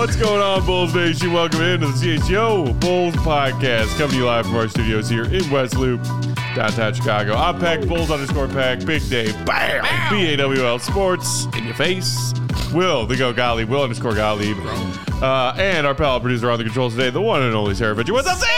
What's going on, Bulls Nation? Welcome into the CHO Bulls Podcast, coming to you live from our studios here in West Loop, downtown Chicago. I'm Peck, Bulls_Peck, Big Dave, bam, BAWL Sports, in your face. Will, the Go Gottlieb, Will_Gottlieb. And our pal producer on the controls today, the one and only Sarah Fitcher. What's up, Sarah?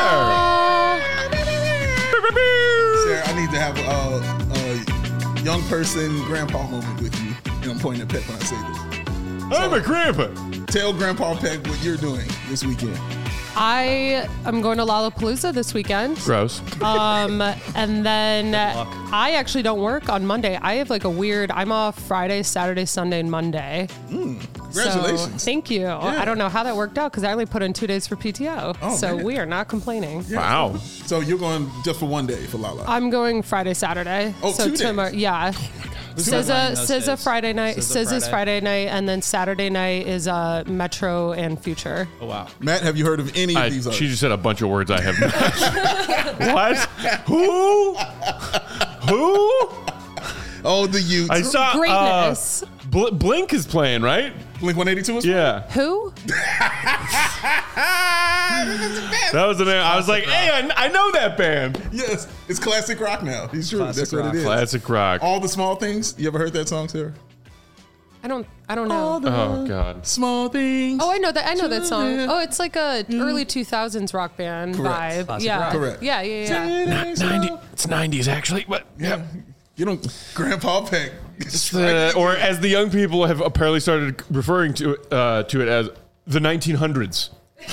Sarah, I need to have a young person grandpa moment with you. And I'm pointing at Peck when I say this. I'm a grandpa. Tell Grandpa Peck what you're doing this weekend. I am going to Lollapalooza this weekend. Gross. And then I actually don't work on Monday. I have like a weird, I'm off Friday, Saturday, Sunday, and Monday. Congratulations. So, thank you. Yeah. I don't know how that worked out because I only put in 2 days for PTO. Oh, so man. we are not complaining. Yeah. Wow. So you're going just for one day for Lala. I'm going Friday, Saturday. Oh, so 2 days. tomorrow, yeah. SZA Friday night, SZA's Friday night, and then Saturday night is Metro and Future. Oh, wow. Matt, have you heard of any of these She artists? just said a bunch of words I have not. What? Who? Oh, the youth. I saw Greatness. Blink is playing, right? Blink 182 is Yeah. Who? That was the name. I was like, hey, I know that band. Yes, it's classic rock now. He's true. Classic That's what rock. it is. Classic rock. All the small things. You ever heard that song, Sarah? I don't know. Oh, God. Small things. Oh, I know that. I know that song. Oh, it's like a early 2000s rock band Correct. vibe. Classic Yeah. rock. Correct. Yeah. It's 90s, actually. But Yeah. You don't. Grandpa Peck. or as the young people have apparently started referring to it as the 1900s.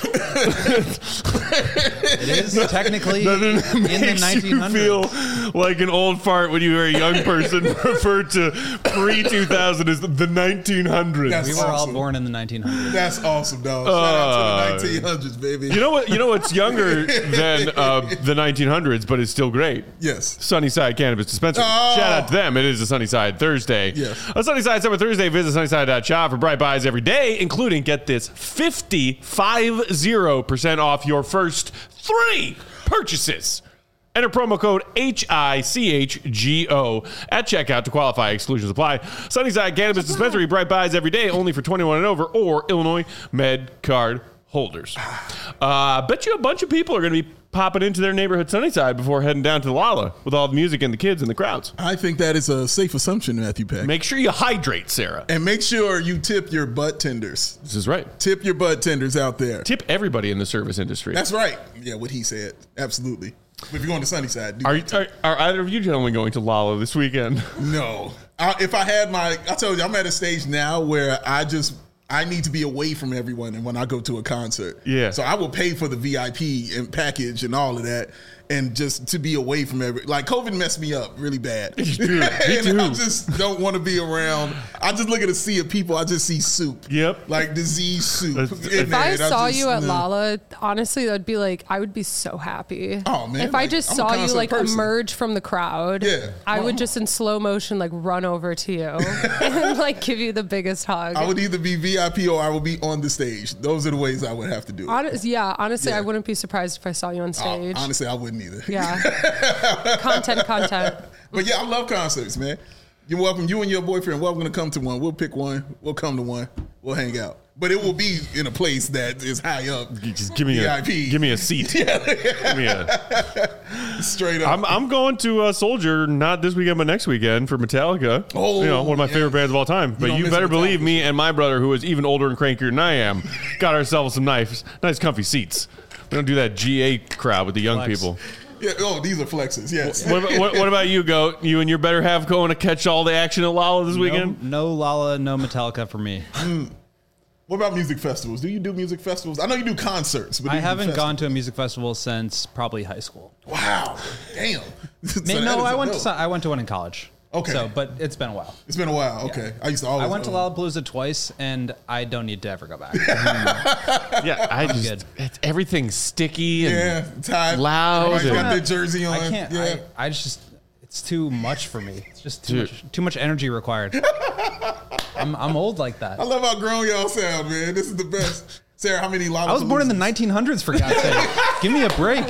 It is technically in the Makes you 1900s. feel like an old fart when you were a young person referred to pre-2000 as the 1900s. That's We were all awesome. born in the 1900s. That's awesome, dog. Shout out to the 1900s, baby. You know what's younger than the 1900s, but it's still great? Yes. Sunnyside Cannabis Dispensary. Oh. Shout out to them. It is a Sunnyside Thursday. Yes. On Sunnyside Summer Thursday, visit sunnyside.shop for bright buys every day, including, get this, 50% off your first 3 purchases. Enter promo code HICHGO at checkout to qualify. Exclusions apply. Sunnyside Cannabis Dispensary, bright buys every day, only for 21 and over, or Illinois Med Card holders. Bet you a bunch of people are going to be popping into their neighborhood Sunnyside before heading down to the Lala with all the music and the kids and the crowds. I think that is a safe assumption, Matthew Peck. Make sure you hydrate, Sarah. And make sure you tip your butt tenders. This is right. Tip your butt tenders out there. Tip everybody in the service industry. That's right. Yeah, what he said. Absolutely. But if you're going to Sunnyside, do Are that. either of you gentlemen going to Lala this weekend? No. If I had I told you, I'm at a stage now where I need to be away from everyone and when I go to a concert. Yeah. So I will pay for the VIP and package and all of that and just to be away from like COVID messed me up really bad. Me too. And I just don't want to be around. I just look at a sea of people. I just see soup. Yep. Like disease soup. If I saw you at Lala, honestly, that'd be like, I would be so happy. Oh, man, If I like, just I'm a saw you concert like person. emerge from the crowd, Yeah. I Well, would just in slow motion like run over to you and like give you the biggest hug. I would either be VIP or I would be on the stage. Those are the ways I would have to do it. Honestly, Yeah. I wouldn't be surprised if I saw you on stage. Honestly, I wouldn't either. Yeah. Content. But yeah, I love concerts, man. You're welcome. You and your boyfriend, welcome to come to one. We'll pick one. We'll come to one. We'll hang out. But it will be in a place that is high up. You just give me VIP. give me a seat. Give me Straight up. I'm going to Soldier not this weekend but next weekend for Metallica. Oh, one of my yes. favorite bands of all time. But don't you miss better Metallica. believe me and my brother, who is even older and crankier than I am, got ourselves some nice comfy seats. We don't do that GA crowd with the young Flex. people. Yeah. Oh, these are flexes. Yes. What about you, Goat? You and your better half going to catch all the action at Lala this weekend? No Lala, no Metallica for me. What about music festivals? Do you do music festivals? I know you do concerts, but do I you do haven't festivals? gone to a music festival since probably high school. Wow. Damn. So that is I a went no. I went to one in college. Okay. So, but it's been a while. It's been a while. Okay. I used to always. I went to Lollapalooza twice, and I don't need to ever go back. Yeah, good. everything's sticky and Yeah. Tied. loud. Everybody's got and- their jersey on. I can't. Yeah. I just. It's too much for me. It's just Dude. too much energy required. I'm old like that. I love how grown y'all sound, man. This is the best. Sarah, how many Lollapaloozas? I was born in the 1900s, for God's sake. Give me a break.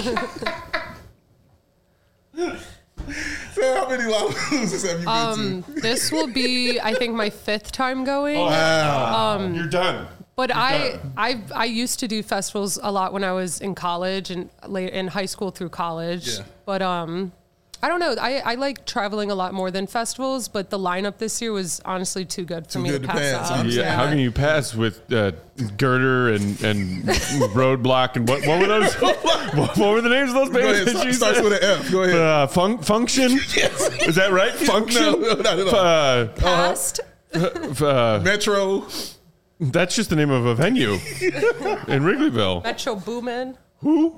Sarah, how many Lollapaloozas have you been to? This will be, I think, my 5th time going. You're done. But I used to do festivals a lot when I was in college and late in high school through college. Yeah. But I don't know. I like traveling a lot more than festivals, but the lineup this year was honestly too good for me to pass up. Yeah. How can you pass with Girder and Roadblock and what were those? what were the names of those bands? Go ahead. Starts with an F. Go ahead. Function? Yes. Is that right? Function? No, not at all. Past. Metro. That's just the name of a venue in Wrigleyville. Metro Boomin. Who?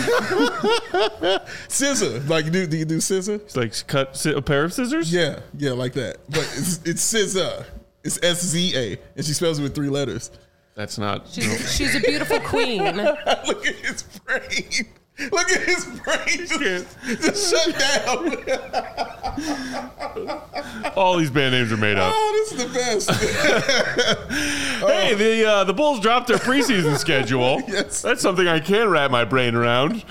Scissor. Like, do you do scissor? It's like cut a pair of scissors? Yeah, like that. But it's scissor. It's SZA, and she spells it with 3 letters. That's not. She's a beautiful queen. Look at his brain. Look at his brain just shut down. All these band names are made up. Oh, this is the best. Hey, the Bulls dropped their preseason schedule. Yes. That's something I can wrap my brain around.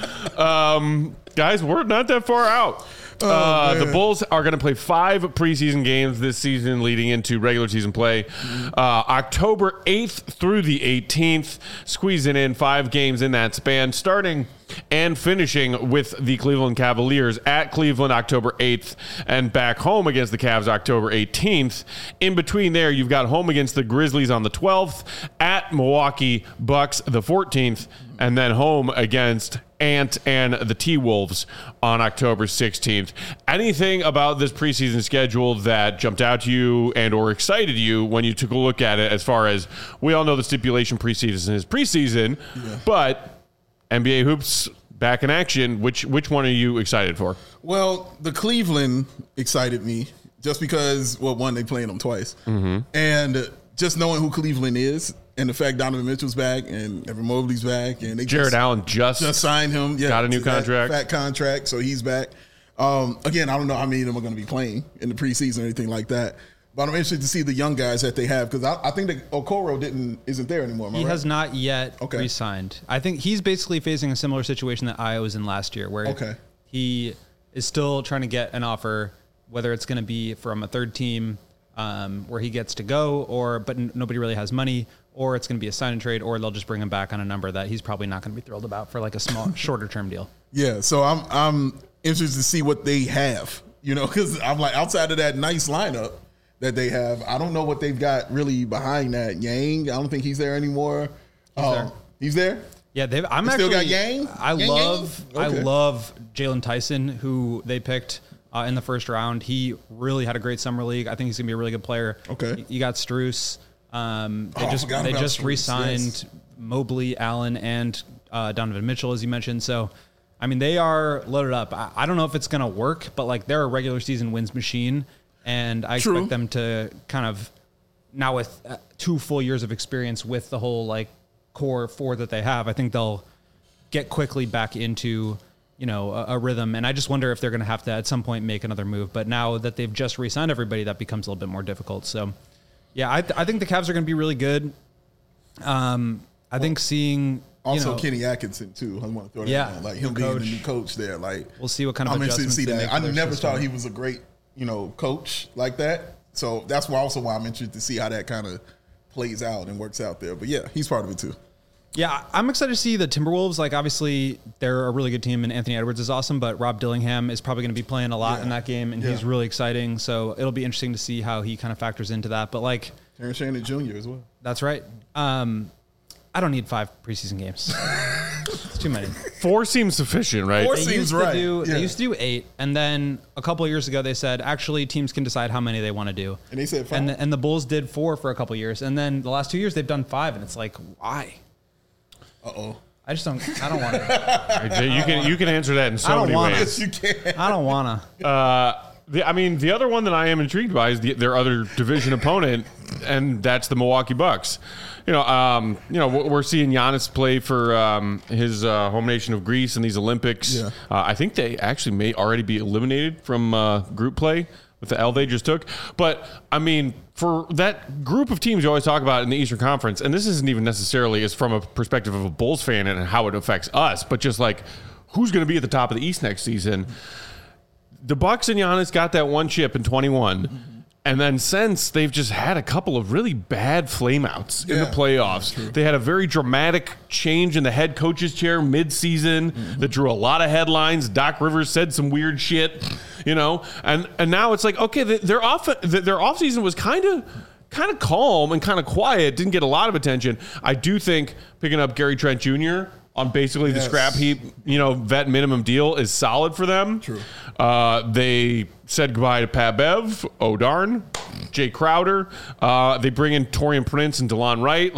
Guys, we're not that far out. The Bulls are going to play 5 preseason games this season leading into regular season play. October 8th through the 18th, squeezing in 5 games in that span, starting and finishing with the Cleveland Cavaliers at Cleveland October 8th and back home against the Cavs October 18th. In between there, you've got home against the Grizzlies on the 12th, at Milwaukee Bucks the 14th, and then home against Ant and the T-Wolves on October 16th. Anything about this preseason schedule that jumped out to you and or excited you when you took a look at it, as far as we all know the stipulation preseason is preseason, but NBA hoops back in action. Which one are you excited for? Well, the Cleveland excited me just because, well, one, they playing them twice. And just knowing who Cleveland is and the fact Donovan Mitchell's back and Evan Mobley's back. And they Jared Allen just signed him. Yeah, got a new contract. Fat contract, so he's back. Again, I don't know how many of them are going to be playing in the preseason or anything like that. But I'm interested to see the young guys that they have, because I think that Okoro isn't there anymore. He has not yet re-signed. I think he's basically facing a similar situation that I was in last year, where he is still trying to get an offer, whether it's going to be from a third team where he gets to go, but nobody really has money, or it's going to be a sign and trade, or they'll just bring him back on a number that he's probably not going to be thrilled about for like a small, shorter term deal. Yeah, so I'm interested to see what they have, because I'm like, outside of that nice lineup that they have, I don't know what they've got really behind that. Yang, I don't think he's there anymore. He's there? Yeah, still got Yang? I love Jalen Tyson, who they picked in the first round. He really had a great summer league. I think he's gonna be a really good player. Okay. You got Strus. They just re-signed Mobley, Allen, and Donovan Mitchell, as you mentioned. So, I mean, they are loaded up. I don't know if it's gonna work, but like, they're a regular season wins machine. And I expect them to kind of, now with 2 full years of experience with the whole like core 4 that they have, I think they'll get quickly back into, a rhythm. And I just wonder if they're going to have to at some point make another move. But now that they've just re-signed everybody, that becomes a little bit more difficult. So, yeah, I think the Cavs are going to be really good. I think seeing... Also, Kenny Atkinson, too. I want to throw that in. Like, him being the new coach there. Like, we'll see what kind of I'm adjustments interested to see that. I never system. thought he was a great... coach like that. So that's why I'm interested to see how that kind of plays out and works out there. But yeah, he's part of it too. Yeah, I'm excited to see the Timberwolves. Like, obviously, they're a really good team, and Anthony Edwards is awesome, but Rob Dillingham is probably going to be playing a lot in that game, and he's really exciting. So it'll be interesting to see how he kind of factors into that. But like, Terrence Shannon Jr. as well. That's right. I don't need 5 preseason games. It's too many. 4 seems sufficient, right? 4 seems right. They used to do 8, and then a couple of years ago they said actually teams can decide how many they want to do. And they said 5. And the Bulls did 4 for a couple of years, and then the last 2 years they've done 5, and it's like, why? I don't want to. You can answer that in so many ways. Yes, you can. I don't want to. The other one that I am intrigued by is their other division opponent, and that's the Milwaukee Bucks. We're seeing Giannis play for his home nation of Greece in these Olympics. Yeah. I think they actually may already be eliminated from group play with the L they just took. But, I mean, for that group of teams you always talk about in the Eastern Conference, and this isn't even necessarily as from a perspective of a Bulls fan and how it affects us, but just like who's going to be at the top of the East next season. The Bucks and Giannis got that one chip in 21. And then since, they've just had a couple of really bad flameouts in the playoffs. They had a very dramatic change in the head coach's chair mid-season that drew a lot of headlines. Doc Rivers said some weird shit, and now it's like, okay, their offseason was kind of calm and kind of quiet, didn't get a lot of attention. I do think picking up Gary Trent Jr. on basically the scrap heap, vet minimum deal is solid for them. True. They said goodbye to Pat Bev, O'Darn, Jay Crowder. They bring in Taurean Prince and DeLon Wright.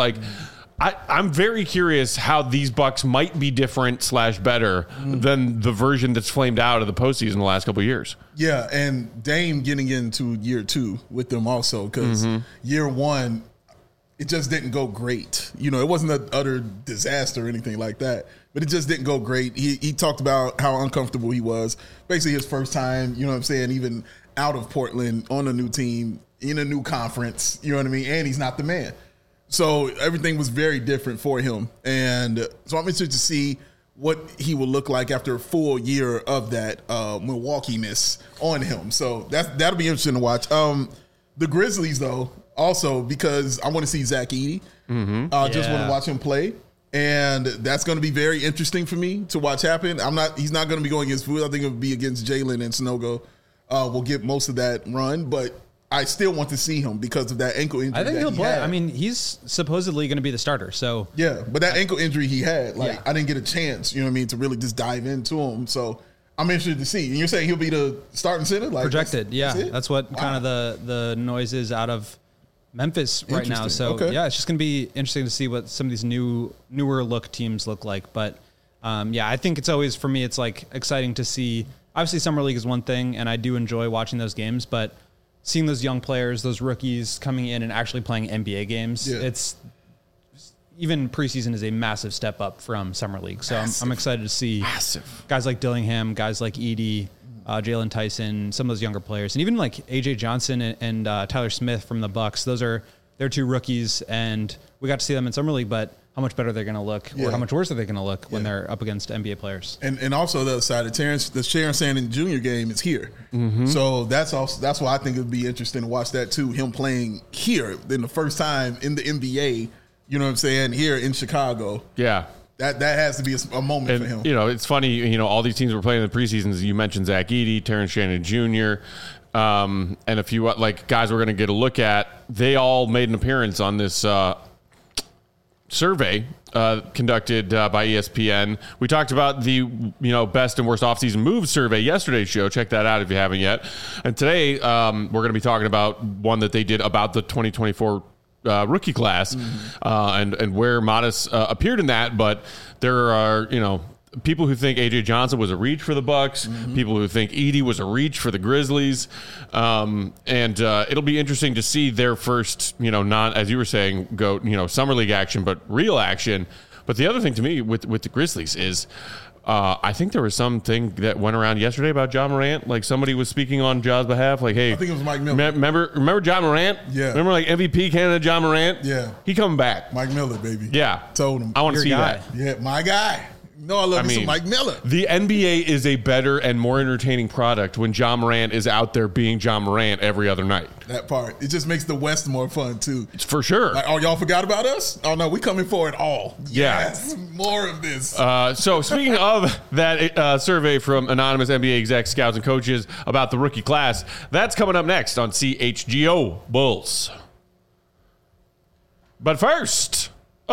I'm very curious how these Bucks might be different / better than the version that's flamed out of the postseason the last couple of years. Yeah, and Dame getting into year 2 with them also, because year 1, it just didn't go great. It wasn't an utter disaster or anything like that, but it just didn't go great. He talked about how uncomfortable he was. Basically his first time, even out of Portland on a new team, in a new conference, and he's not the man. So everything was very different for him. And so I'm interested to see what he will look like after a full year of that Milwaukee-ness on him. So that'll be interesting to watch. The Grizzlies, though, also, because I want to see Zach Edey. Just want to watch him play. And that's going to be very interesting for me to watch happen. He's not going to be going against Vooch. I think it'll be against Jalen and Sanogo. We'll get most of that run, but I still want to see him because of that ankle injury. I think he'll play. Had. I mean, he's supposedly going to be the starter. So yeah, but that ankle injury he had, I didn't get a chance, to really just dive into him. So I'm interested to see. And you're saying he'll be the starting center? Projected, that's what kind of the noise is out of Memphis right now. So it's just going to be interesting to see what some of these newer look teams look like. But I think it's always, for me, it's like exciting to see. Obviously, Summer League is one thing, and I do enjoy watching those games, but seeing those young players, those rookies coming in and actually playing NBA games, it's even preseason is a massive step up from Summer League. So I'm excited to see guys like Dillingham, guys like Edey, Jalen Tyson, some of those younger players, and even like AJ Johnson and Tyler Smith from the Bucks. They're 2 rookies, and we got to see them in Summer League, but how much better they're going to look, or how much worse are they going to look when they're up against NBA players? And also the other side, the Sharon Sandon Jr. game is here, so that's why I think it would be interesting to watch that too. Him playing here in the first time in the NBA, here in Chicago. Yeah. That has to be a moment for him. It's funny, all these teams were playing in the preseasons. You mentioned Zach Edey, Terrence Shannon Jr., and a few guys we're going to get a look at. They all made an appearance on this survey conducted by ESPN. We talked about the best and worst offseason moves survey yesterday's show. Check that out if you haven't yet. And today we're going to be talking about one that they did about the 2024 rookie class and where Modest appeared in that. But there are people who think AJ Johnson was a reach for the Bucks, people who think Edey was a reach for the Grizzlies, and it'll be interesting to see their first, not, as you were saying, go, Summer League action, but real action. But the other thing to me with the Grizzlies is I think there was something that went around yesterday about Ja Morant. Like somebody was speaking on Ja's behalf. Like, hey, I think it was Mike Miller. Remember Ja Morant? Yeah. Remember MVP candidate Ja Morant? Yeah. He coming back. Mike Miller, baby. Yeah. Told him. I want to see that. Yeah, my guy. No, I love me some Mike Miller. The NBA is a better and more entertaining product when Ja Morant is out there being Ja Morant every other night. That part. It just makes the West more fun, too. It's for sure. Like, oh, y'all forgot about us? Oh, no, we coming for it all. Yeah. Yes, more of this. So speaking of that survey from anonymous NBA execs, scouts, and coaches about the rookie class, that's coming up next on CHGO Bulls. But first,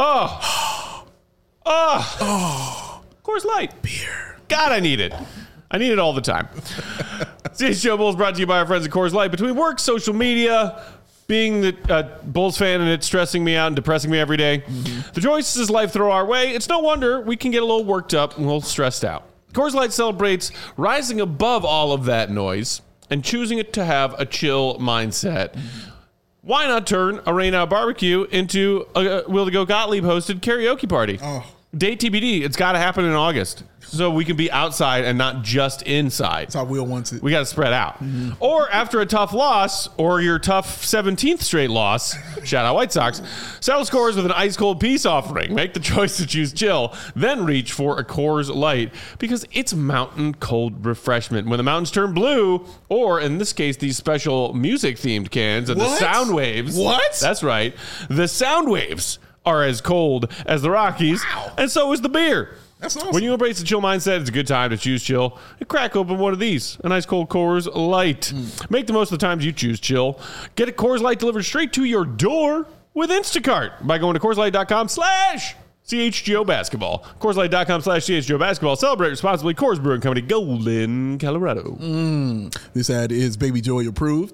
Coors Light. Beer. God, I need it. I need it all the time. CHGO Bulls brought to you by our friends at Coors Light. Between work, social media, being the Bulls fan and it stressing me out and depressing me every day, the choices life throw our way, it's no wonder we can get a little worked up and a little stressed out. Coors Light celebrates rising above all of that noise and choosing it to have a chill mindset. Why not turn a Rain Out Barbecue into a Will to Go Gottlieb hosted karaoke party? Oh, Date TBD. It's got to happen in August. So we can be outside and not just inside. That's how Will wants it. We got to spread out. Mm-hmm. Or after a tough loss or your tough 17th straight loss, shout out White Sox, settle scores with an ice cold peace offering. Make the choice to choose chill, then reach for a Coors Light because it's mountain cold refreshment. When the mountains turn blue, or in this case, these special music themed cans of the sound waves. What? That's right. The sound waves are as cold as the Rockies, and so is the beer. That's awesome. When you embrace the chill mindset, it's a good time to choose chill and crack open one of these. A nice cold Coors Light. Make the most of the times you choose chill. Get a Coors Light delivered straight to your door with Instacart by going to CoorsLight.com/CHGO Basketball. CoorsLight.com/CHGO Basketball. Celebrate responsibly. Coors Brewing Company, Golden, Colorado. This ad is Baby Joey approved.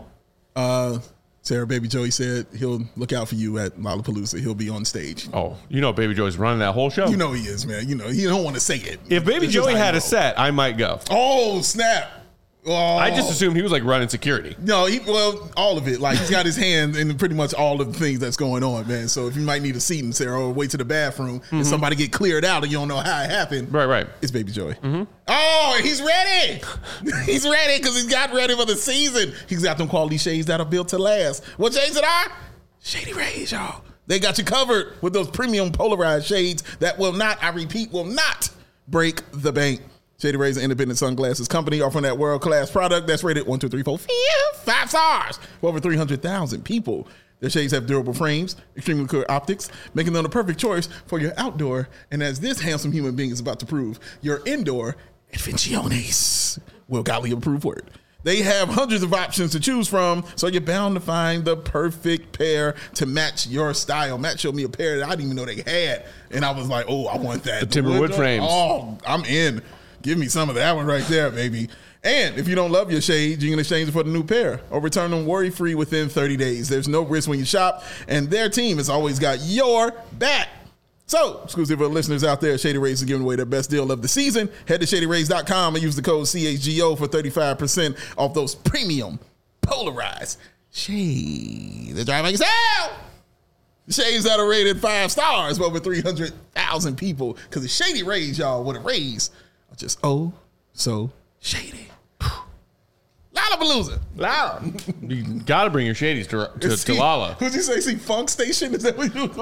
Sarah, Baby Joey said he'll look out for you at Lollapalooza. He'll be on stage. Oh, you know Baby Joey's running that whole show. You know he is, man. You know, he don't want to say it. If Baby Joey had a set, I might go. Oh, snap. Oh. I just assumed he was like running security. No, all of it. Like he's got his hand in pretty much all of the things that's going on, man. So if you might need a seat in Sarah or wait to the bathroom and somebody get cleared out and you don't know how it happened. Right. It's Baby Joey. Oh, he's ready. He's ready because he's got ready for the season. He's got them quality shades that are built to last. What shades it are? Shady Rays, y'all. They got you covered with those premium polarized shades that will not, I repeat, will not break the bank. Shady Rays, an independent sunglasses company offering that world-class product that's rated 1, 2, 3, 4, 5 stars for over 300,000 people. Their shades have durable frames, extremely clear optics, making them the perfect choice for your outdoor, and as this handsome human being is about to prove, your indoor adventiones. Will Gottlieb approved word. They have hundreds of options to choose from, so you're bound to find the perfect pair to match your style. Matt showed me a pair that I didn't even know they had, and I was like, oh, I want that. The Timberwood frames. Oh, I'm in. Give me some of that one right there, baby. And if you don't love your shades, you can exchange it for the new pair or return them worry-free within 30 days. There's no risk when you shop, and their team has always got your back. So, exclusive for listeners out there, Shady Rays is giving away their best deal of the season. Head to ShadyRays.com and use the code CHGO for 35% off those premium polarized shades. They're driving sale. Shades that are rated 5 stars for over 300,000 people. Because the Shady Rays, y'all, with a raise are just so shady. Lollapalooza. Loud. You got to bring your shadies to Lala. Who'd you say? See, Funk Station? Is that what you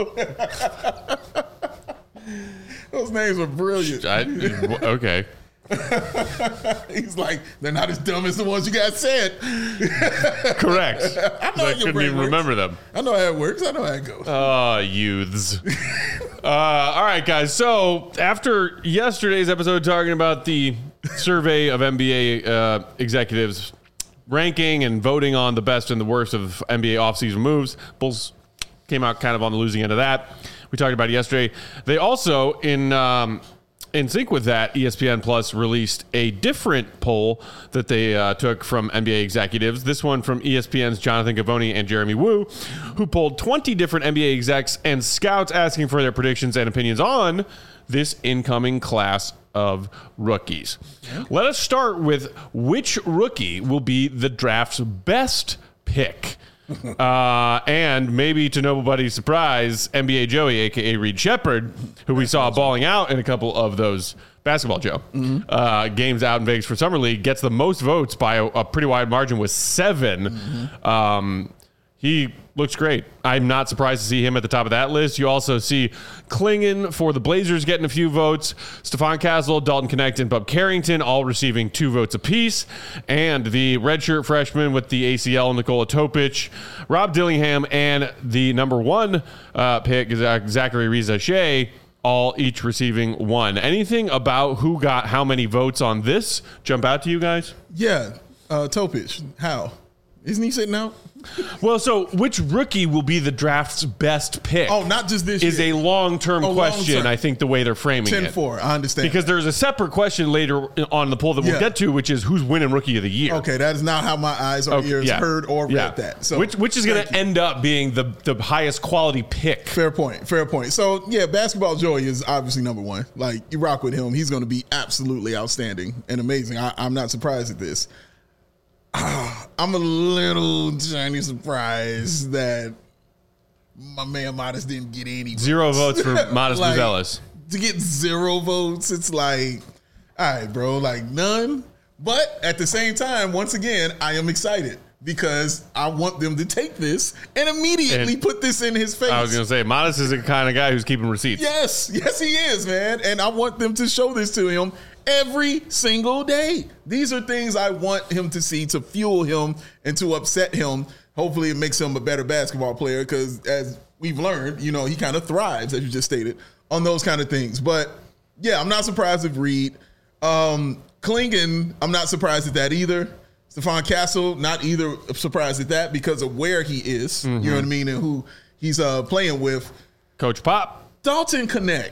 Those names were brilliant. Okay. He's like, they're not as dumb as the ones you guys said. Correct. I know I couldn't even remember them. I know how it works. I know how it goes. Youths. All right, guys. So after yesterday's episode talking about the survey of NBA executives ranking and voting on the best and the worst of NBA offseason moves, Bulls came out kind of on the losing end of that. We talked about it yesterday. They also, in sync with that, ESPN Plus released a different poll that they took from NBA executives. This one from ESPN's Jonathan Givony and Jeremy Woo, who polled 20 different NBA execs and scouts asking for their predictions and opinions on this incoming class of rookies. Yeah. Let us start with which rookie will be the draft's best pick. And maybe to nobody's surprise, NBA Joey, a.k.a. Reed Shepherd, who we saw balling out in a couple of those basketball, Joe, games out in Vegas for Summer League, gets the most votes by a pretty wide margin with 7. He looks great. I'm not surprised to see him at the top of that list. You also see Klingon for the Blazers getting a few votes. Stephon Castle, Dalton Knecht, and Bub Carrington all receiving 2 votes apiece. And the redshirt freshman with the ACL, Nikola Topic, Rob Dillingham, and the number 1 pick, Zachary Riza-Shea, all each receiving 1. Anything about who got how many votes on this jump out to you guys? Yeah. Topic. How? Isn't he sitting out? Well, so which rookie will be the draft's best pick? Oh, not just this is year. A long-term question, long-term. I think, the way they're framing 10-4, it. I understand. Because there's a separate question later on the poll that we'll get to, which is who's winning Rookie of the Year. Okay, that is not how my eyes or ears heard or read that. So, which is going to end up being the highest quality pick. Fair point. So, yeah, Basketball Joey is obviously number 1. Like, you rock with him. He's going to be absolutely outstanding and amazing. I'm not surprised at this. I'm a little tiny surprised that my man Modest didn't get any votes. 0 votes for Modest Buzelis. to get 0 votes, it's like, all right, bro, like none. But at the same time, once again, I am excited because I want them to take this and immediately put this in his face. I was going to say, Modest is the kind of guy who's keeping receipts. Yes, he is, man. And I want them to show this to him every single day. These are things I want him to see to fuel him and to upset him. Hopefully it makes him a better basketball player because as we've learned, you know, he kind of thrives, as you just stated, on those kind of things. But yeah, I'm not surprised with Reed. Clingan, I'm not surprised at that either. Stephon Castle, not either surprised at that because of where he is, you know what I mean, and who he's playing with. Coach Pop. Dalton Connect.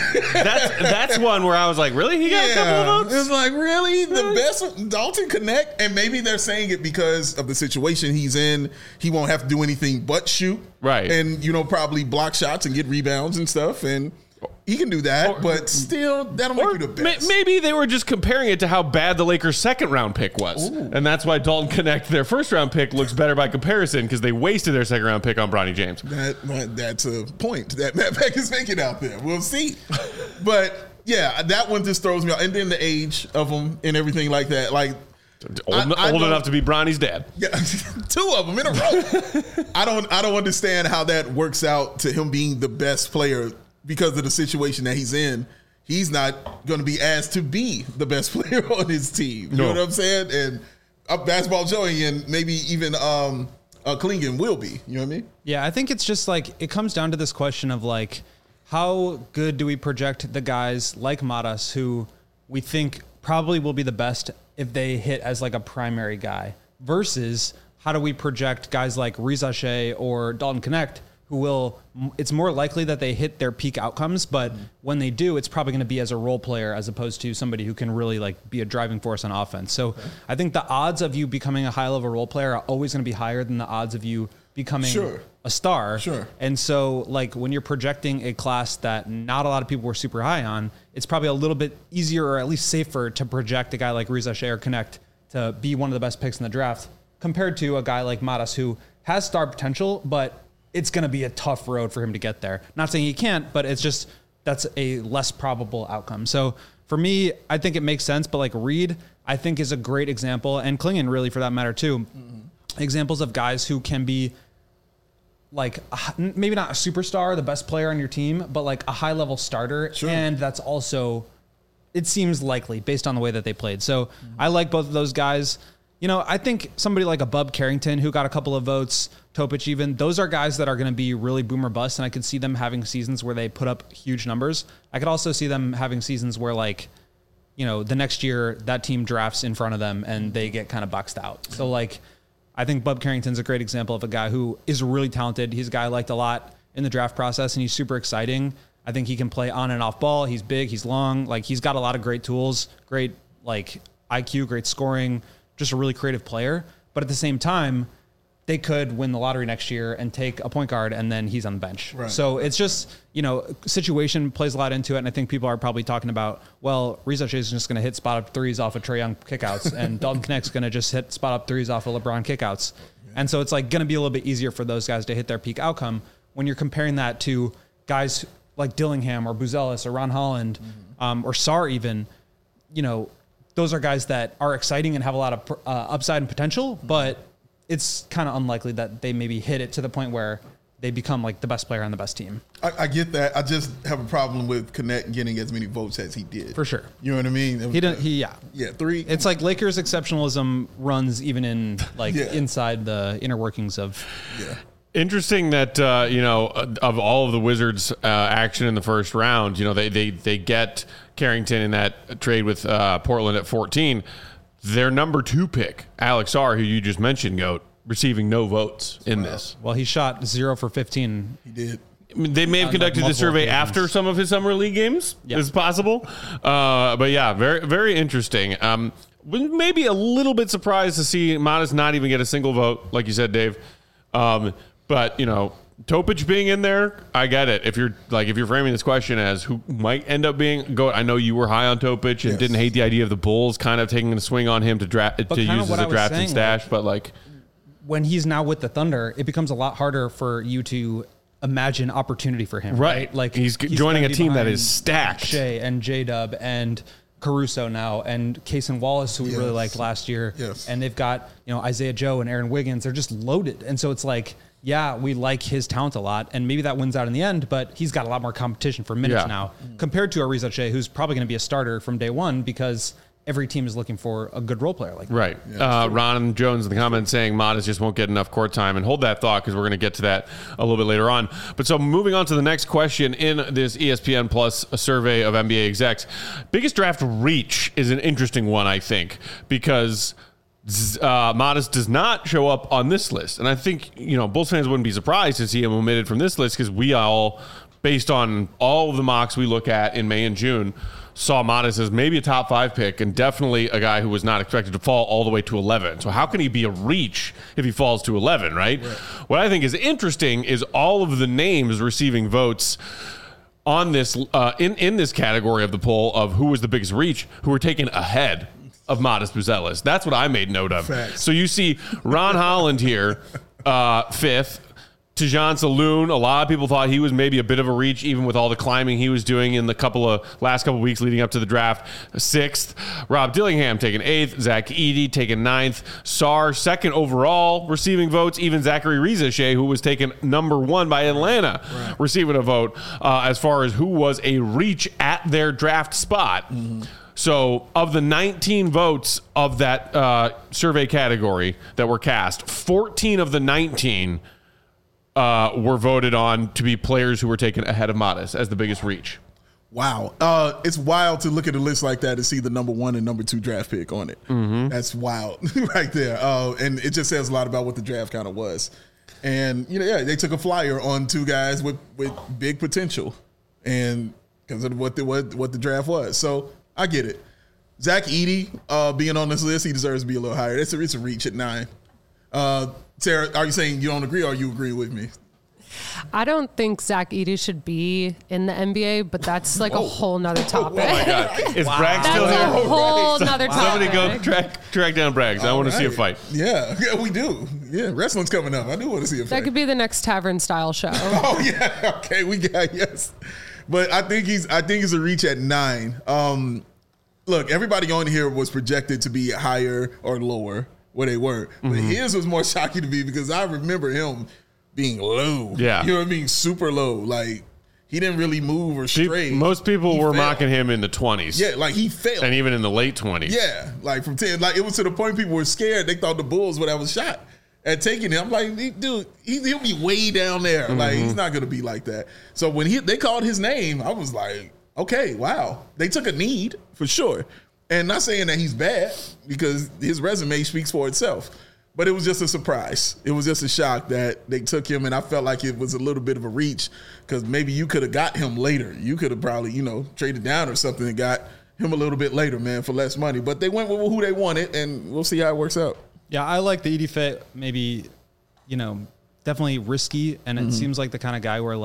That's one where I was like, really? He got a couple of votes? It's like, really? The best Dalton Connect? And maybe they're saying it because of the situation he's in. He won't have to do anything but shoot. Right. And, you know, probably block shots and get rebounds and stuff. And he can do that, but still, that'll make you the best. Maybe they were just comparing it to how bad the Lakers' second-round pick was. Ooh. And that's why Dalton Connect, their first-round pick, looks better by comparison because they wasted their second-round pick on Bronny James. That's a point that Matt Peck is making out there. We'll see. But, yeah, that one just throws me off. And then the age of them and everything like that. Like, old enough to be Bronny's dad. Yeah, 2 of them in a row. I don't understand how that works out to him being the best player because of the situation that he's in. He's not going to be asked to be the best player on his team. You know what I'm saying? And Basketball Joey and maybe even Clingan will be. You know what I mean? Yeah, I think it's just like it comes down to this question of like, how good do we project the guys like Matas who we think probably will be the best if they hit as like a primary guy versus how do we project guys like Reza Shea or Dalton Connect who will, it's more likely that they hit their peak outcomes, but when they do, it's probably going to be as a role player as opposed to somebody who can really like be a driving force on offense. So I think the odds of you becoming a high level role player are always going to be higher than the odds of you becoming a star. Sure. And so like when you're projecting a class that not a lot of people were super high on, it's probably a little bit easier or at least safer to project a guy like Reza Shea or Connect to be one of the best picks in the draft compared to a guy like Matas who has star potential, but it's going to be a tough road for him to get there. Not saying he can't, but it's just, that's a less probable outcome. So for me, I think it makes sense, but like Reed, I think is a great example, and Clingan really for that matter too. Examples of guys who can be like, maybe not a superstar, the best player on your team, but like a high level starter. Sure. And that's also, it seems likely based on the way that they played. So I like both of those guys. You know, I think somebody like a Bub Carrington who got a couple of votes, Topic even, those are guys that are going to be really boom or bust, and I could see them having seasons where they put up huge numbers. I could also see them having seasons where, like, you know, the next year that team drafts in front of them and they get kind of boxed out. So, like, I think Bub Carrington's a great example of a guy who is really talented. He's a guy I liked a lot in the draft process, and he's super exciting. I think he can play on and off ball. He's big, he's long. Like, he's got a lot of great tools, great, like, IQ, great scoring, just a really creative player. But at the same time, they could win the lottery next year and take a point guard and then he's on the bench. Right. So it's just, you know, situation plays a lot into it. And I think people are probably talking about, well, Reza Shea is just going to hit spot up threes off of Trae Young kickouts and Dalton Connect's going to just hit spot up threes off of LeBron kickouts. Yeah. And so it's like going to be a little bit easier for those guys to hit their peak outcome when you're comparing that to guys like Dillingham or Buzelis or Ron Holland or Sarr even. You know, those are guys that are exciting and have a lot of upside and potential, but it's kind of unlikely that they maybe hit it to the point where they become like the best player on the best team. I get that. I just have a problem with Connect getting as many votes as he did. For sure. You know what I mean? Yeah, 3. It's like Lakers exceptionalism runs even in like inside the inner workings of. Yeah. Interesting that, you know, of all of the Wizards action in the first round, you know, they get Carrington in that trade with Portland at 14. Their number 2 pick, Alex Sarr, who you just mentioned, Goat, receiving no votes in this. Well, he shot 0 for 15. He did. I mean, they may have conducted the survey after some of his summer league games. Yeah. It's possible. But yeah, very, very interesting. Maybe a little bit surprised to see Matas not even get a single vote, like you said, Dave. But, you know, Topic being in there, I get it. If you're framing this question as who might end up being I know you were high on Topic and didn't hate the idea of the Bulls kind of taking a swing on him to use as a draft and stash, but like when he's now with the Thunder, it becomes a lot harder for you to imagine opportunity for him. Right. Like he's joining a team that is stacked. Shea and J-Dub and Caruso now and Cason Wallace, who we really liked last year. Yes. And they've got, Isaiah Joe and Aaron Wiggins. They're just loaded. And so it's like, yeah, we like his talent a lot, and maybe that wins out in the end, but he's got a lot more competition for minutes now compared to Ariza Shea, who's probably going to be a starter from day one because every team is looking for a good role player like that. Right. Ron Jones in the comments saying Modest just won't get enough court time, and hold that thought because we're going to get to that a little bit later on. But so moving on to the next question in this ESPN Plus survey of NBA execs, biggest draft reach is an interesting one, I think, because Modest does not show up on this list. And I think, Bulls fans wouldn't be surprised to see him omitted from this list because we all, based on all of the mocks we look at in May and June, saw Modest as maybe a top 5 pick and definitely a guy who was not expected to fall all the way to 11. So how can he be a reach if he falls to 11, right? What I think is interesting is all of the names receiving votes on this in this category of the poll of who was the biggest reach, who were taken ahead of Modest Buzelis. That's what I made note of. Facts. So you see Ron Holland here, 5th. Tijan Saloon, a lot of people thought he was maybe a bit of a reach, even with all the climbing he was doing in the last couple weeks leading up to the draft. 6th. Rob Dillingham taken 8th. Zach Edey taken 9th. Sarr 2nd overall receiving votes. Even Zachary Riza-Shea, who was taken number 1 by Atlanta, receiving a vote as far as who was a reach at their draft spot. So of the 19 votes of that survey category that were cast, 14 of the 19 were voted on to be players who were taken ahead of Modest as the biggest reach. Wow. It's wild to look at a list like that and see the number 1 and number 2 draft pick on it. That's wild right there. And it just says a lot about what the draft kind of was. And, they took a flyer on 2 guys with big potential and because of what the draft was. So I get it. Zach Edey being on this list, he deserves to be a little higher. It's a reach at 9. Sarah, are you saying you don't agree or you agree with me? I don't think Zach Edey should be in the NBA, but that's like a whole nother topic. Oh my God. Is Bragg still here? That's a whole nother topic. Somebody go track down Braggs. I want to see a fight. Yeah, we do. Yeah, wrestling's coming up. I do want to see a fight. That could be the next Tavern style show. Oh yeah. Okay, yes. But I think he's a reach at 9. Look, everybody on here was projected to be higher or lower where they were. But his was more shocking to me because I remember him being low. Yeah. You know what I mean? Super low. Like, he didn't really move or stray. Most people were mocking him in the 20s. Yeah, like he failed. And even in the late 20s. Yeah, like from 10. Like, it was to the point people were scared. They thought the Bulls would have a shot at taking him. I'm like, dude, he'll be way down there. Like, he's not going to be like that. So when they called his name, I was like, okay, wow. They took a need for sure. And not saying that he's bad because his resume speaks for itself. But it was just a surprise. It was just a shock that they took him, and I felt like it was a little bit of a reach because maybe you could have got him later. You could have probably, traded down or something and got him a little bit later, man, for less money. But they went with who they wanted, and we'll see how it works out. Yeah, I like the Edey fit. Maybe, definitely risky, and it seems like the kind of guy where,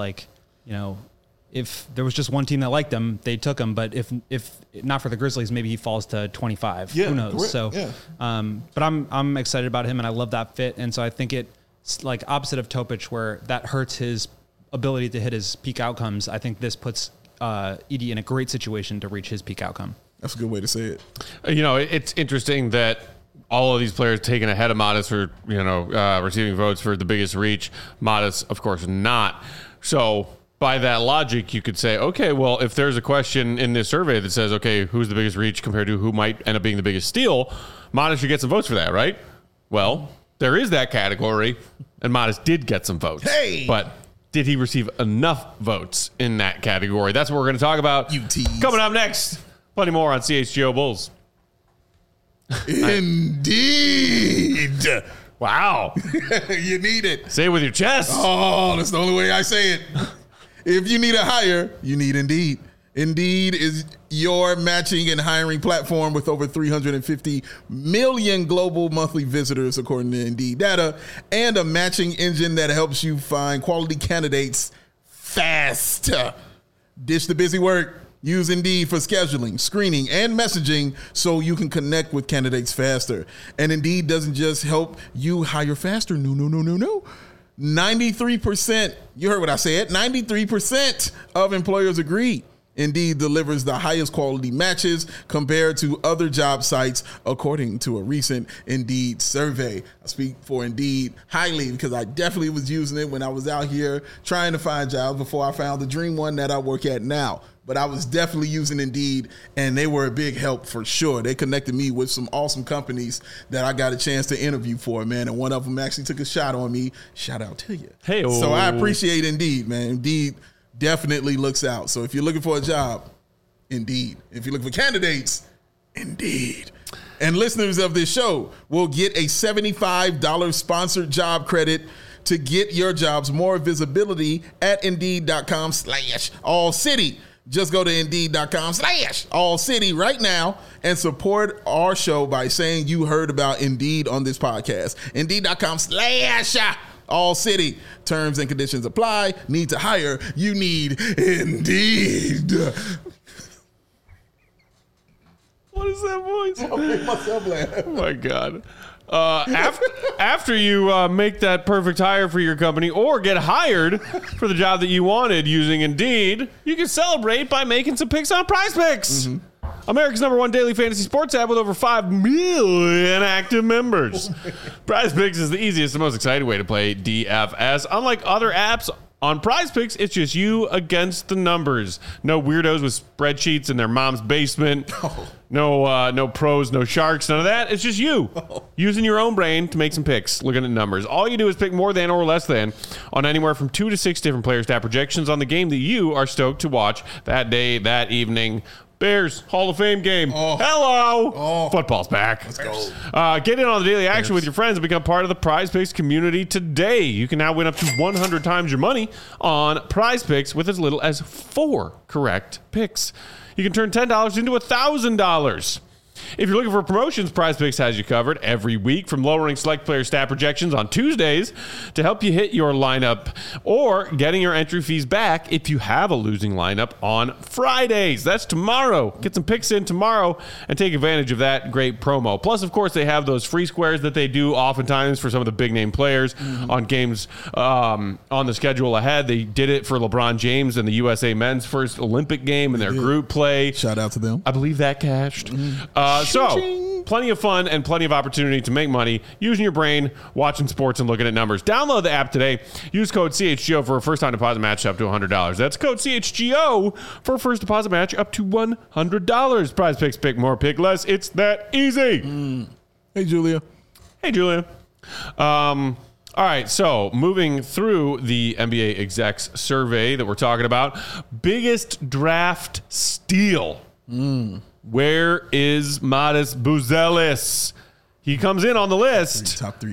if there was just one team that liked him, they took him. But if not for the Grizzlies, maybe he falls to 25. Yeah, who knows? correct. So, yeah. But I'm excited about him, and I love that fit. And so I think it's like opposite of Topic, where that hurts his ability to hit his peak outcomes. I think this puts Edey in a great situation to reach his peak outcome. That's a good way to say it. It's interesting that all of these players taken ahead of Modest for receiving votes for the biggest reach. Modest, of course, not. So by that logic, you could say, okay, well, if there's a question in this survey that says, okay, who's the biggest reach compared to who might end up being the biggest steal, Modest should get some votes for that, right? Well, there is that category, and Modest did get some votes. Hey! But did he receive enough votes in that category? That's what we're going to talk about. You tease. Coming up next, plenty more on CHGO Bulls. Indeed. Wow. You need it. Say it with your chest. Oh, that's the only way I say it. If you need a hire, you need Indeed. Indeed is your matching and hiring platform with over 350 million global monthly visitors, according to Indeed data, and a matching engine that helps you find quality candidates fast. Ditch the busy work. Use Indeed for scheduling, screening, and messaging so you can connect with candidates faster. And Indeed doesn't just help you hire faster. No. 93%, you heard what I said, 93% of employers agree Indeed delivers the highest quality matches compared to other job sites, according to a recent Indeed survey. I speak for Indeed highly because I definitely was using it when I was out here trying to find jobs before I found the dream one that I work at now. But I was definitely using Indeed, and they were a big help for sure. They connected me with some awesome companies that I got a chance to interview for, man. And one of them actually took a shot on me. Shout out to you. Hey, so I appreciate Indeed, man. Indeed definitely looks out. So if you're looking for a job, Indeed. If you're looking for candidates, Indeed. And listeners of this show will get a $75 sponsored job credit to get your jobs more visibility at Indeed.com/AllCity. Just go to Indeed.com/AllCity right now and support our show by saying you heard about Indeed on this podcast. Indeed.com/AllCity. Terms and conditions apply. Need to hire. You need Indeed. What is that voice? I'll make myself laugh. Oh my God. After you make that perfect hire for your company or get hired for the job that you wanted using Indeed, you can celebrate by making some picks on Prize Picks. Mm-hmm. America's #1 daily fantasy sports app with over 5 million active members. Prize Picks is the easiest and most exciting way to play DFS. Unlike other apps, on Prize Picks, it's just you against the numbers. No weirdos with spreadsheets in their mom's basement. No pros, no sharks, none of that. It's just you using your own brain to make some picks, looking at numbers. All you do is pick more than or less than on anywhere from 2 to 6 different player stat projections on the game that you are stoked to watch that day, that evening. Bears Hall of Fame game. Oh. Hello. Oh. Football's back. Let's go. Get in on the daily action with your friends and become part of the Prize Picks community today. You can now win up to 100 times your money on Prize Picks with as little as 4 correct picks. You can turn $10 into $1,000. If you're looking for promotions, Prize Picks has you covered every week, from lowering select player stat projections on Tuesdays to help you hit your lineup, or getting your entry fees back if you have a losing lineup on Fridays. That's tomorrow. Get some picks in tomorrow and take advantage of that great promo. Plus, of course, they have those free squares that they do oftentimes for some of the big name players on games on the schedule ahead. They did it for LeBron James and the USA men's first Olympic game in their group play. Shout out to them. I believe that cashed. So, plenty of fun and plenty of opportunity to make money using your brain, watching sports, and looking at numbers. Download the app today. Use code CHGO for a first-time deposit match up to $100. That's code CHGO for a first deposit match up to $100. Prize Picks, pick more, pick less. It's that easy. Hey, Julia. Hey, Julia. All right, so moving through the NBA execs survey that we're talking about, biggest draft steal. Where is Matas Buzelis? He comes in on the list. Top three.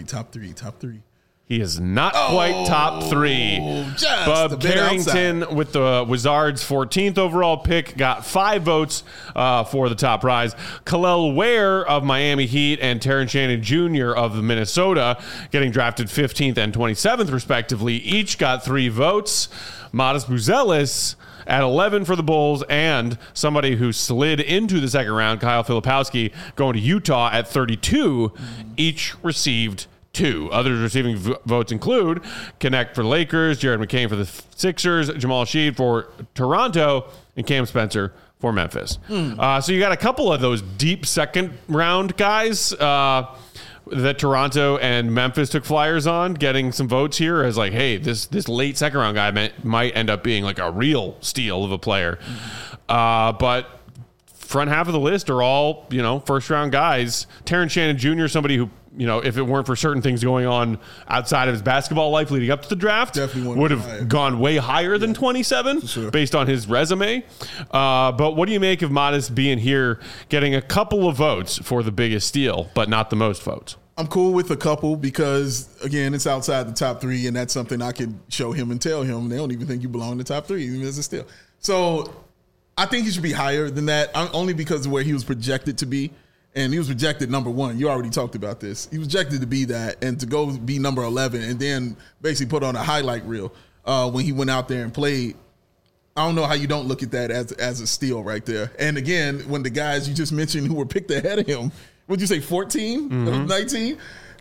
He is not quite top 3. Bub Carrington with the Wizards' 14th overall pick got 5 votes for the top prize. Kel'el Ware of Miami Heat and Terrence Shannon Jr. of Minnesota getting drafted 15th and 27th respectively each got 3 votes. Matas Buzelis at 11 for the Bulls, and somebody who slid into the second round, Kyle Filipowski, going to Utah at 32, each received 2. Others receiving votes include Connect for the Lakers, Jared McCain for the Sixers, Jamal Sheed for Toronto, and Cam Spencer for Memphis. So you got a couple of those deep second round guys that Toronto and Memphis took flyers on, getting some votes here as like, hey, this late second round guy might end up being like a real steal of a player. But front half of the list are all, first round guys. Terrence Shannon Jr., somebody who, if it weren't for certain things going on outside of his basketball life leading up to the draft, definitely would have gone way higher than 27 based on his resume. But what do you make of Matas being here, getting a couple of votes for the biggest steal, but not the most votes? I'm cool with a couple because, again, it's outside the top 3, and that's something I could show him and tell him. They don't even think you belong in the top 3, even as a steal. So I think he should be higher than that, only because of where he was projected to be. And he was projected number 1. You already talked about this. He was projected to be that, and to go be number 11 and then basically put on a highlight reel when he went out there and played. I don't know how you don't look at that as a steal right there. And again, when the guys you just mentioned who were picked ahead of him, what'd you say, 14, 19?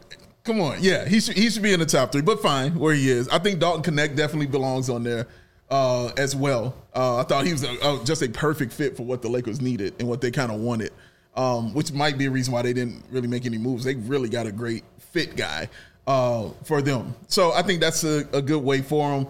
Come on. Yeah, he should be in the top 3, but fine where he is. I think Dalton Knecht definitely belongs on there as well. I thought he was just a perfect fit for what the Lakers needed and what they kind of wanted, which might be a reason why they didn't really make any moves. They really got a great fit guy for them. So I think that's a good way for him.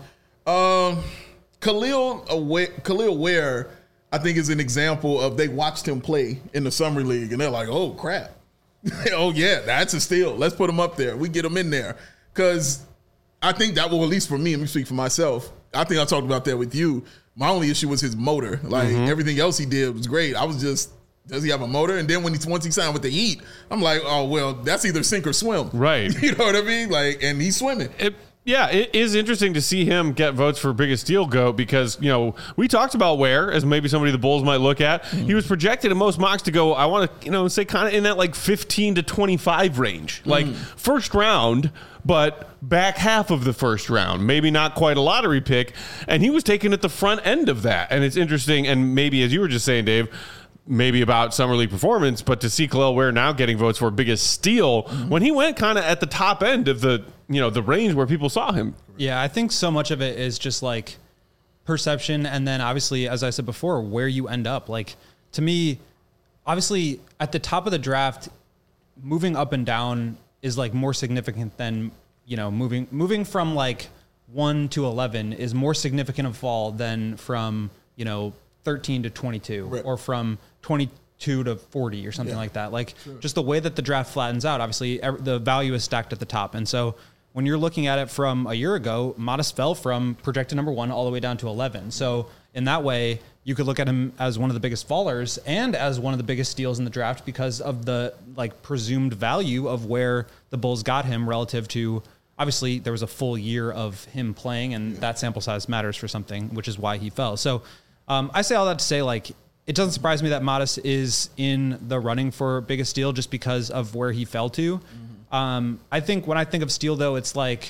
Khalil Ware, I think, is an example of they watched him play in the summer league and they're like, oh, crap. Oh, yeah, that's a steal. Let's put him up there. We get him in there. Because I think that will, at least for me, let me speak for myself. I think I talked about that with you. My only issue was his motor. Like, everything else he did was great. I was just, does he have a motor? And then once he signed with the Heat, I'm like, oh, well, that's either sink or swim. Right. You know what I mean? Like, and he's swimming. Yeah, it is interesting to see him get votes for biggest steal GOAT because, we talked about Ware as maybe somebody the Bulls might look at. He was projected in most mocks to go, I want to, say kind of in that like 15 to 25 range. Like first round, but back half of the first round. Maybe not quite a lottery pick. And he was taken at the front end of that. And it's interesting, and maybe as you were just saying, Dave, maybe about summer league performance, but to see Khalil Ware now getting votes for biggest steal when he went kind of at the top end of the range where people saw him. Yeah, I think so much of it is just like perception. And then obviously, as I said before, where you end up. Like to me, obviously at the top of the draft, moving up and down is like more significant than, moving from like 1 to 11 is more significant of fall than from, 13 to 22 or from 22 to 40 or something like that. Like just the way that the draft flattens out, obviously the value is stacked at the top. And so when you're looking at it from a year ago, Modest fell from projected number 1 all the way down to 11. So in that way, you could look at him as one of the biggest fallers and as one of the biggest steals in the draft because of the like presumed value of where the Bulls got him relative to, obviously there was a full year of him playing and that sample size matters for something, which is why he fell. So I say all that to say, like, it doesn't surprise me that Modest is in the running for biggest steal just because of where he fell to. I think when I think of steal, though, it's like,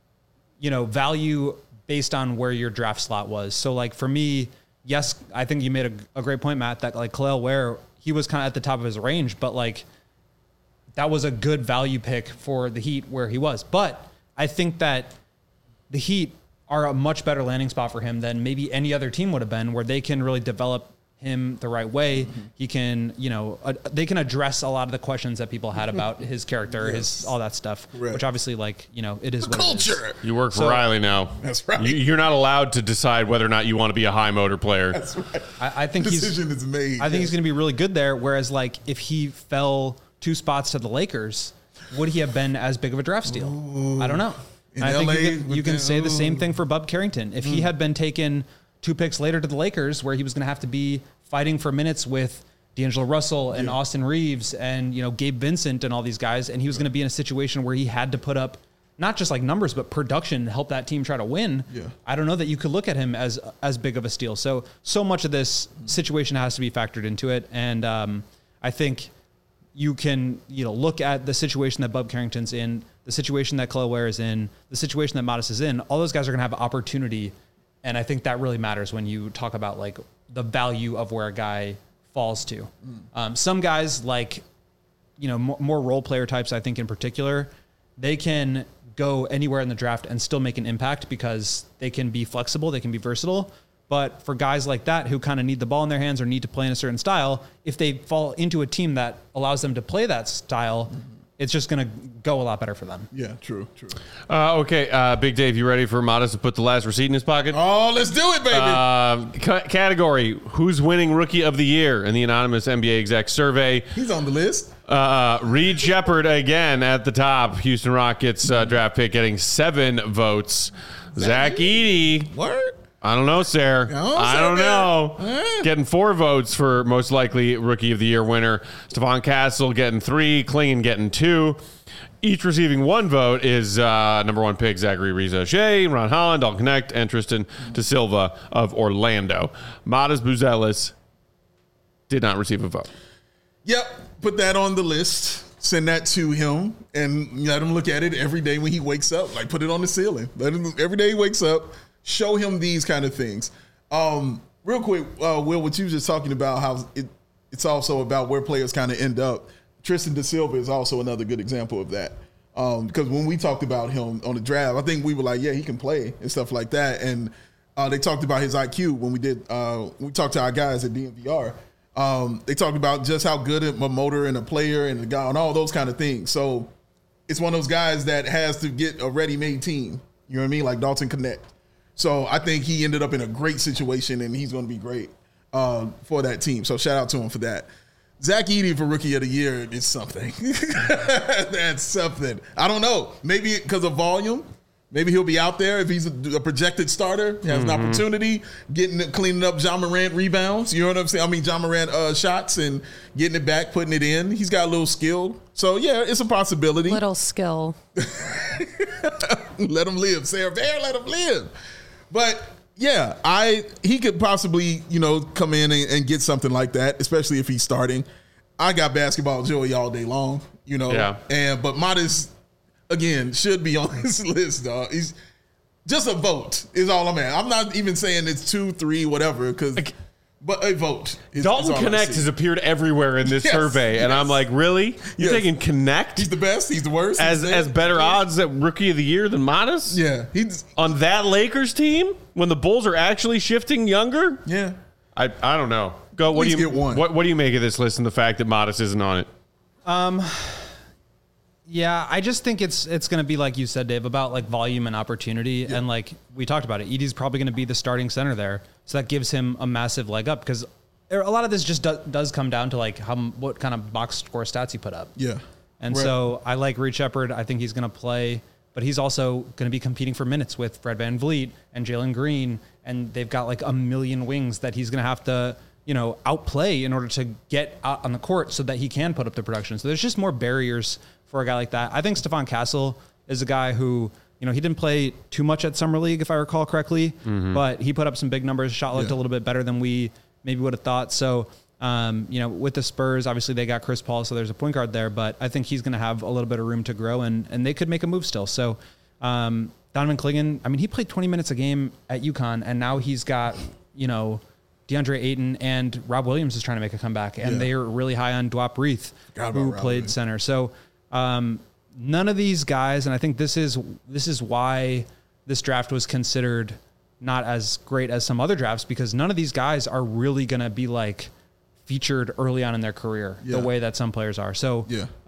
value based on where your draft slot was. So, like, for me, yes, I think you made a great point, Matt, that, like, Khalil Ware, he was kind of at the top of his range, but, like, that was a good value pick for the Heat where he was. But I think that the Heat are a much better landing spot for him than maybe any other team would have been, where they can really develop him the right way. He can, they can address a lot of the questions that people had about his character, his all that stuff, which obviously, like, it is what culture. It is. You work for Riley now. That's right. You're not allowed to decide whether or not you want to be a high motor player. That's right. I think decision is made. I think he's going to be really good there. Whereas, like, if he fell 2 spots to the Lakers, would he have been as big of a draft steal? Ooh. I don't know. I think you can say the same thing for Bub Carrington. If he had been taken 2 picks later to the Lakers, where he was going to have to be fighting for minutes with D'Angelo Russell and Austin Reeves and, Gabe Vincent and all these guys, and he was going to be in a situation where he had to put up not just like numbers, but production to help that team try to win. Yeah. I don't know that you could look at him as big of a steal. So much of this situation has to be factored into it. And I think you can, look at the situation that Bub Carrington's in, the situation that Khalil Ware is in, the situation that Modest is in. All those guys are going to have opportunity. And I think that really matters when you talk about like the value of where a guy falls to. Some guys like, more role player types, I think in particular, they can go anywhere in the draft and still make an impact because they can be flexible, they can be versatile. But for guys like that who kind of need the ball in their hands or need to play in a certain style, if they fall into a team that allows them to play that style, it's just going to go a lot better for them. Yeah, true. Okay, Big Dave, you ready for Modest to put the last receipt in his pocket? Oh, let's do it, baby. Category, who's winning Rookie of the Year in the anonymous NBA exec survey? He's on the list. Reed Sheppard again at the top. Houston Rockets draft pick getting 7 votes. Zach Edey. Word? I don't know, Sarah. I don't know. Getting 4 votes for most likely Rookie of the Year winner. Stephon Castle getting 3. Klingon getting 2. Each receiving 1 vote is number 1 pick Zachary Reza-Shea, Ron Holland, Dalton Knecht, and Tristan De Silva of Orlando. Modest Buzelis did not receive a vote. Yep. Put that on the list. Send that to him and let him look at it every day when he wakes up. Like, put it on the ceiling. Let him, every day he wakes up, show him these kind of things. Real quick, Will, what you were just talking about, how it's also about where players kind of end up. Tristan De Silva is also another good example of that. Because when we talked about him on the draft, I think we were like, yeah, he can play and stuff like that. And they talked about his IQ when we talked to our guys at DMVR. They talked about just how good a motor and a player and a guy and all those kind of things. So it's one of those guys that has to get a ready-made team. You know what I mean? Like Dalton Connect. So I think he ended up in a great situation, and he's going to be great for that team. So shout out to him for that. Zach Edey for Rookie of the Year is something. That's something. I don't know. Maybe because of volume. Maybe he'll be out there if he's a projected starter. He has an opportunity, cleaning up Ja Morant rebounds. You know what I'm saying? I mean, Ja Morant shots and getting it back, putting it in. He's got a little skill. So, yeah, it's a possibility. Little skill. Let him live. Sarah Bear, let him live. But, yeah, he could possibly, come in and get something like that, especially if he's starting. I got basketball Joey all day long, Yeah. But Modest, again, should be on this list, dog. He's just a vote is all I'm at. I'm not even saying it's 2, 3, whatever, but a vote. Dalton Connect has appeared everywhere in this survey, and I'm like, really? You're taking Connect? He's the best. He's the worst. As better odds at Rookie of the Year than Modest? Yeah. He's on that Lakers team when the Bulls are actually shifting younger? Yeah. I don't know. Go. What do you get one? What do you make of this list and the fact that Modest isn't on it? Yeah, I just think it's going to be like you said, Dave, about like volume and opportunity, and like we talked about it. Edey's probably going to be the starting center there, so that gives him a massive leg up because a lot of this just does come down to like what kind of box score stats he put up. Yeah, and so I like Reed Sheppard. I think he's going to play, but he's also going to be competing for minutes with Fred VanVleet and Jalen Green, and they've got like a million wings that he's going to have to outplay in order to get out on the court so that he can put up the production. So there's just more barriers for a guy like that. I think Stephon Castle is a guy who, he didn't play too much at Summer League, if I recall correctly, but he put up some big numbers. Shot looked a little bit better than we maybe would have thought. So, with the Spurs, obviously they got Chris Paul, so there's a point guard there, but I think he's going to have a little bit of room to grow, and they could make a move still. So, Donovan Clingan, he played 20 minutes a game at UConn, and now he's got, DeAndre Ayton and Rob Williams is trying to make a comeback, and they are really high on Dwap Reith, who played center. So, none of these guys, and I think this is why this draft was considered not as great as some other drafts, because none of these guys are really going to be like featured early on in their career the way that some players are. So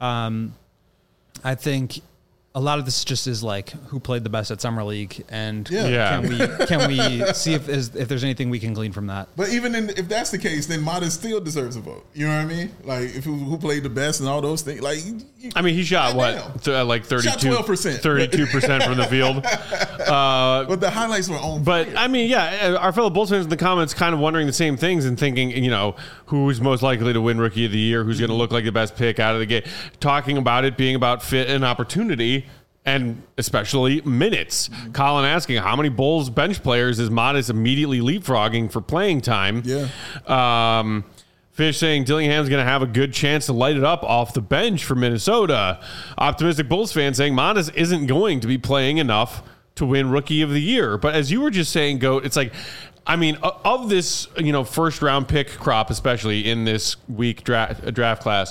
I think a lot of this just is like who played the best at Summer League, and can we see if there's anything we can glean from that? But even if that's the case, then Modest still deserves a vote. You know what I mean? Like if who played the best and all those things. Like he shot like 32, 32% from the field. But the highlights were on. But our fellow Bulls fans in the comments kind of wondering the same things and thinking, who's most likely to win Rookie of the Year, who's going to look like the best pick out of the gate, talking about it being about fit and opportunity. And especially minutes. Colin asking, how many Bulls bench players is Modest immediately leapfrogging for playing time? Yeah. Fish saying Dillingham's going to have a good chance to light it up off the bench for Minnesota. Optimistic Bulls fan saying Modest isn't going to be playing enough to win Rookie of the Year. But as you were just saying, Goat, it's like, of this, first round pick crop, especially in this week draft class,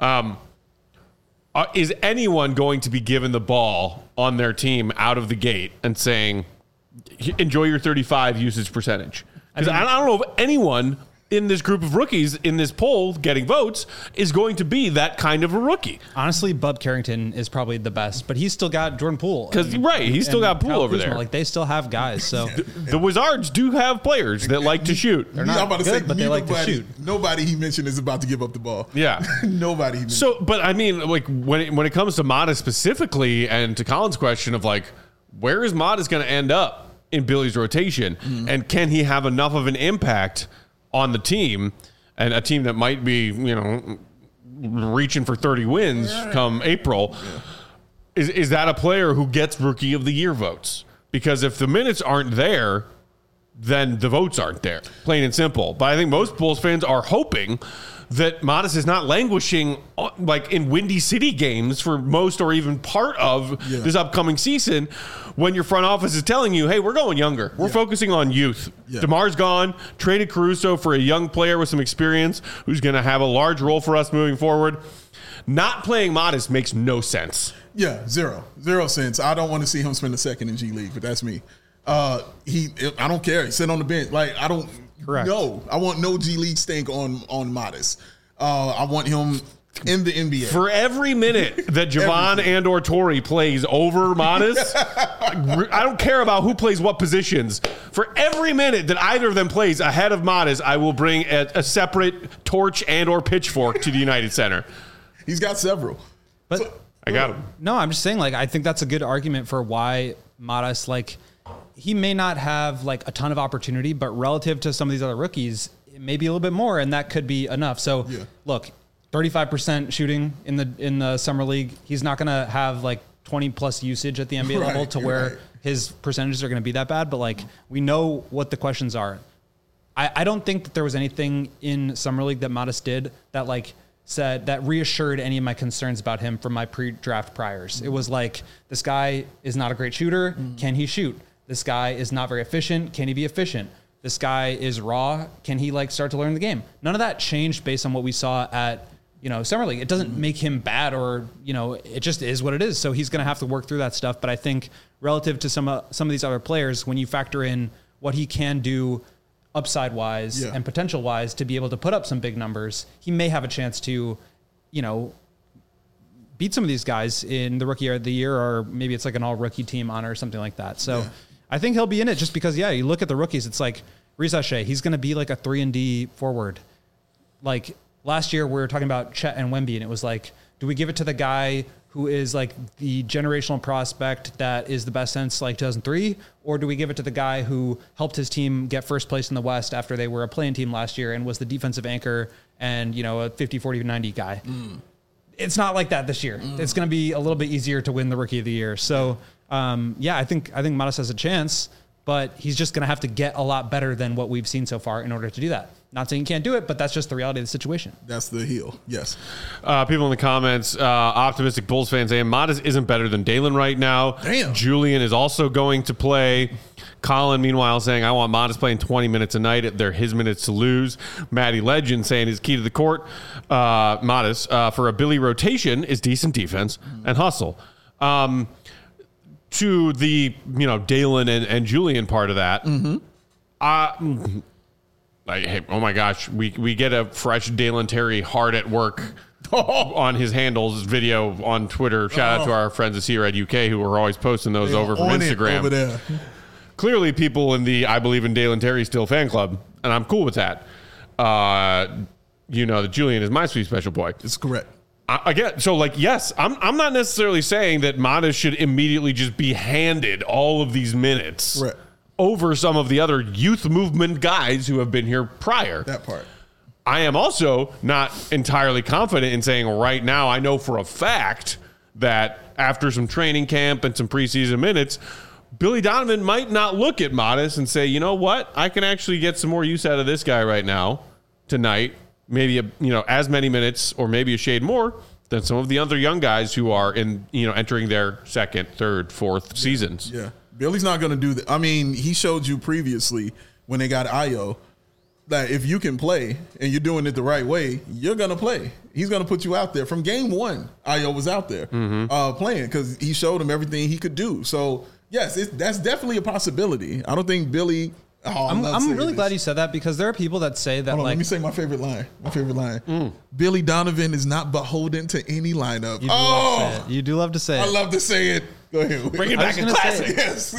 is anyone going to be given the ball on their team out of the gate and saying, enjoy your 35 usage percentage? Because I don't know if anyone in this group of rookies in this poll getting votes is going to be that kind of a rookie. Honestly, Bub Carrington is probably the best, but he's still got Jordan Poole. He's still got Poole over there. Like they still have guys. So the Wizards do have players that like to shoot. They're not good, but they like to shoot. Nobody he mentioned is about to give up the ball. Yeah, nobody. He mentioned. So, but when it comes to Modest specifically, and to Colin's question of like, where is Modest going to end up in Billy's rotation, and can he have enough of an impact on the team, and a team that might be, reaching for 30 wins come April, is that a player who gets Rookie of the Year votes? Because if the minutes aren't there, then the votes aren't there, plain and simple. But I think most Bulls fans are hoping that Modest is not languishing like in Windy City games for most or even part of this upcoming season, when your front office is telling you, hey, we're going younger. We're focusing on youth. DeMar's gone, traded Caruso for a young player with some experience who's going to have a large role for us moving forward. not playing Modest makes no sense. Yeah, zero sense. I don't want to see him spend a second in G League, but that's me. I don't care. He sit on the bench. Like, I don't know. I want no G League stink on Modest. I want him in the NBA. For every minute that Javon and or Torrey plays over Modest, I don't care about who plays what positions. For every minute that either of them plays ahead of Modest, I will bring a separate torch and or pitchfork to the United Center. He's got several. But I got him. No, I'm just saying, like, I think that's a good argument for why Modest, like, he may not have like a ton of opportunity, but relative to some of these other rookies, it may be a little bit more, and that could be enough. So look, 35% shooting in the summer league. He's not going to have like 20 plus usage at the NBA level to where his percentages are going to be that bad. But like, we know what the questions are. I don't think that there was anything in summer league that Modest did that like said that reassured any of my concerns about him from my pre-draft priors. It was like, this guy is not a great shooter. Can he shoot? This guy is not very efficient. Can he be efficient? This guy is raw. Can he like start to learn the game? None of that changed based on what we saw at, summer league. It doesn't make him bad or, it just is what it is. So he's going to have to work through that stuff. But I think relative to some of these other players, when you factor in what he can do upside wise and potential wise to be able to put up some big numbers, he may have a chance to, beat some of these guys in the rookie of the year, or maybe it's like an all rookie team honor or something like that. So I think he'll be in it just because, you look at the rookies, it's like Riza Shea, he's going to be like a 3-and-D forward. Like last year we were talking about Chet and Wemby, and it was like, do we give it to the guy who is like the generational prospect that is the best since like 2003? Or do we give it to the guy who helped his team get first place in the West after they were a play-in team last year and was the defensive anchor and, a 50, 40, 90 guy? It's not like that this year. It's going to be a little bit easier to win the rookie of the year. So, I think Modest has a chance, but he's just going to have to get a lot better than what we've seen so far in order to do that. Not saying he can't do it, but that's just the reality of the situation. That's the heel. Yes. People in the comments, optimistic Bulls fans saying Modest isn't better than Dalen right now. Damn. Julian is also going to play. Colin, meanwhile, saying, I want Modest playing 20 minutes a night. They're his minutes to lose. Maddie Legend saying his key to the court, Modest, for a Billy rotation is decent defense and hustle. To the, Dalen and Julian part of that, hey, oh my gosh, we get a fresh Dalen Terry hard at work on his handles video on Twitter. Shout out to our friends at Seared UK who are always posting those over from Instagram. Over there. Clearly, people in the I Believe in Dalen Terry Still fan club, and I'm cool with that. That Julian is my sweet special boy. It's correct. Again, so yes, I'm not necessarily saying that Modest should immediately just be handed all of these minutes over some of the other youth movement guys who have been here prior. That part. I am also not entirely confident in saying right now I know for a fact that after some training camp and some preseason minutes, Billy Donovan might not look at Modest and say, you know what, I can actually get some more use out of this guy right now, tonight. Maybe as many minutes or maybe a shade more than some of the other young guys who are entering their second, third, fourth seasons. Yeah, Billy's not going to do that. I mean, he showed you previously when they got Ayo that if you can play and you're doing it the right way, you're going to play. He's going to put you out there. From game one, Ayo was out there playing because he showed him everything he could do. So yes, that's definitely a possibility. I don't think Billy. I'm really glad you said that because there are people that say that. Let me say my favorite line. Billy Donovan is not beholden to any lineup. You do love to say it. I love to say it. Go ahead. Bring it back in classic. Yes.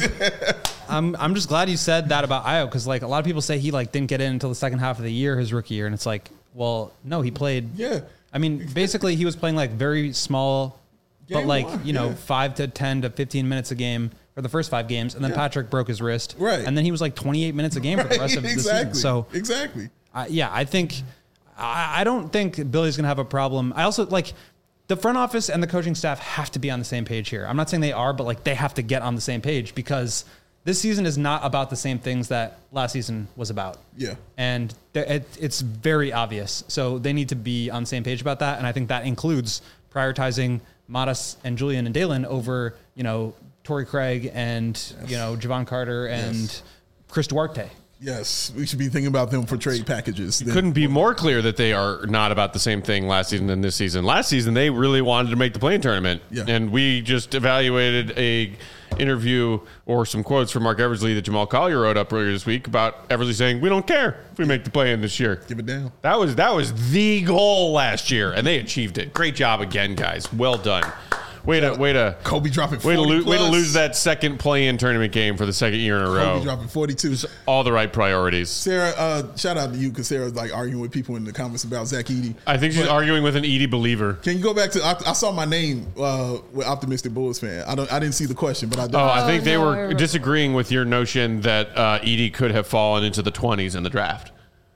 I'm just glad you said that about Ayo because a lot of people say he didn't get in until the second half of the year, his rookie year, and it's like, well, no, he played. Yeah. I mean, basically he was playing very small, game but 5 to 10 to 15 minutes a game. For the first 5 games, and then Patrick broke his wrist. Right. And then he was 28 minutes a game for the rest of the season. So exactly. I think I don't think Billy's going to have a problem. I also the front office and the coaching staff have to be on the same page here. I'm not saying they are, but they have to get on the same page because this season is not about the same things that last season was about. Yeah. And it's very obvious. So they need to be on the same page about that. And I think that includes prioritizing Modest and Julian and Dalen over, Torrey Craig and Javon Carter and Chris Duarte. Yes, we should be thinking about them for trade packages. Couldn't be more clear that they are not about the same thing last season than this season. Last season, they really wanted to make the play-in tournament. Yeah. And we just evaluated a interview or some quotes from Mark Eversley that Jamal Collier wrote up earlier this week about Eversley saying, we don't care if we make the play-in this year. Give it down. That was the goal last year, and they achieved it. Great job again, guys. Well done. Way to Kobe dropping 40 way to lose that second play-in tournament game for the second year in a row. Kobe dropping 42. All the right priorities. Sarah, shout out to you because Sarah's like arguing with people in the comments about Zach Edey. I think she's arguing with an Edey believer. Can you go back to? I saw my name with Optimistic Bulls fan. I didn't see the question, but I did. I think they were disagreeing with your notion that Edey could have fallen into the 20s in the draft.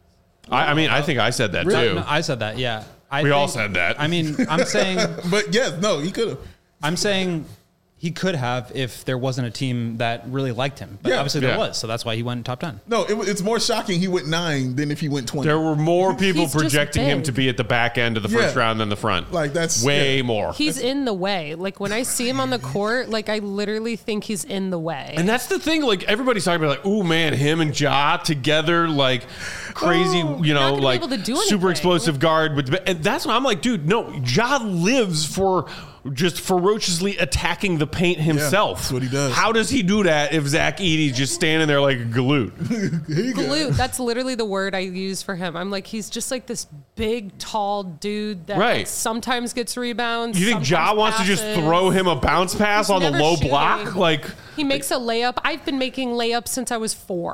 I think I said that too. No, I said that. Yeah, we all said that. I mean, I'm saying, but yes, no, he could have. I'm saying he could have if there wasn't a team that really liked him. But obviously there was, so that's why he went top 10. No, it's more shocking he went 9 than if he went 20. There were more people projecting him to be at the back end of the first round than the front. Like that's way more. He's in the way. Like when I see him on the court, like I literally think he's in the way. And that's the thing. Like everybody's talking about, like, ooh man, him and Ja together, like crazy, like super explosive guard. And that's what I'm like, dude. No, Ja lives for just ferociously attacking the paint himself. That's what he does. How does he do that if Zach Edey's just standing there like a galoot? Galoot. That's literally the word I use for him. I'm like, he's just like this big, tall dude that like, sometimes gets rebounds. You think Ja wants to just throw him a bounce pass on the low block? Like he makes a layup. I've been making layups since I was 4.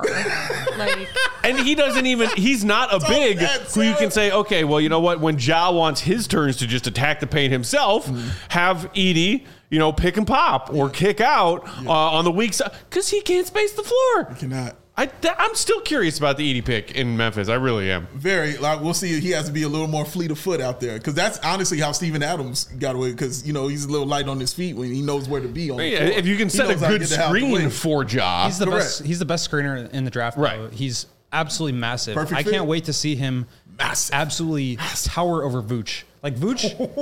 And he doesn't even, he's not a big who you can say, okay, well, you know what? When Ja wants his turns to just attack the paint himself, have Edey, pick and pop or kick out on the weak side because he can't space the floor. He cannot. I'm still curious about the Edey pick in Memphis. I really am. Very. Like we'll see. He has to be a little more fleet of foot out there because that's honestly how Steven Adams got away. Because he's a little light on his feet when he knows where to be on the floor. If you can set a good screen for Ja, he's the best. He's the best screener in the draft. Right. Though. He's absolutely massive. Perfect I fit. can't wait to see him absolutely tower over Vooch. Like Vooch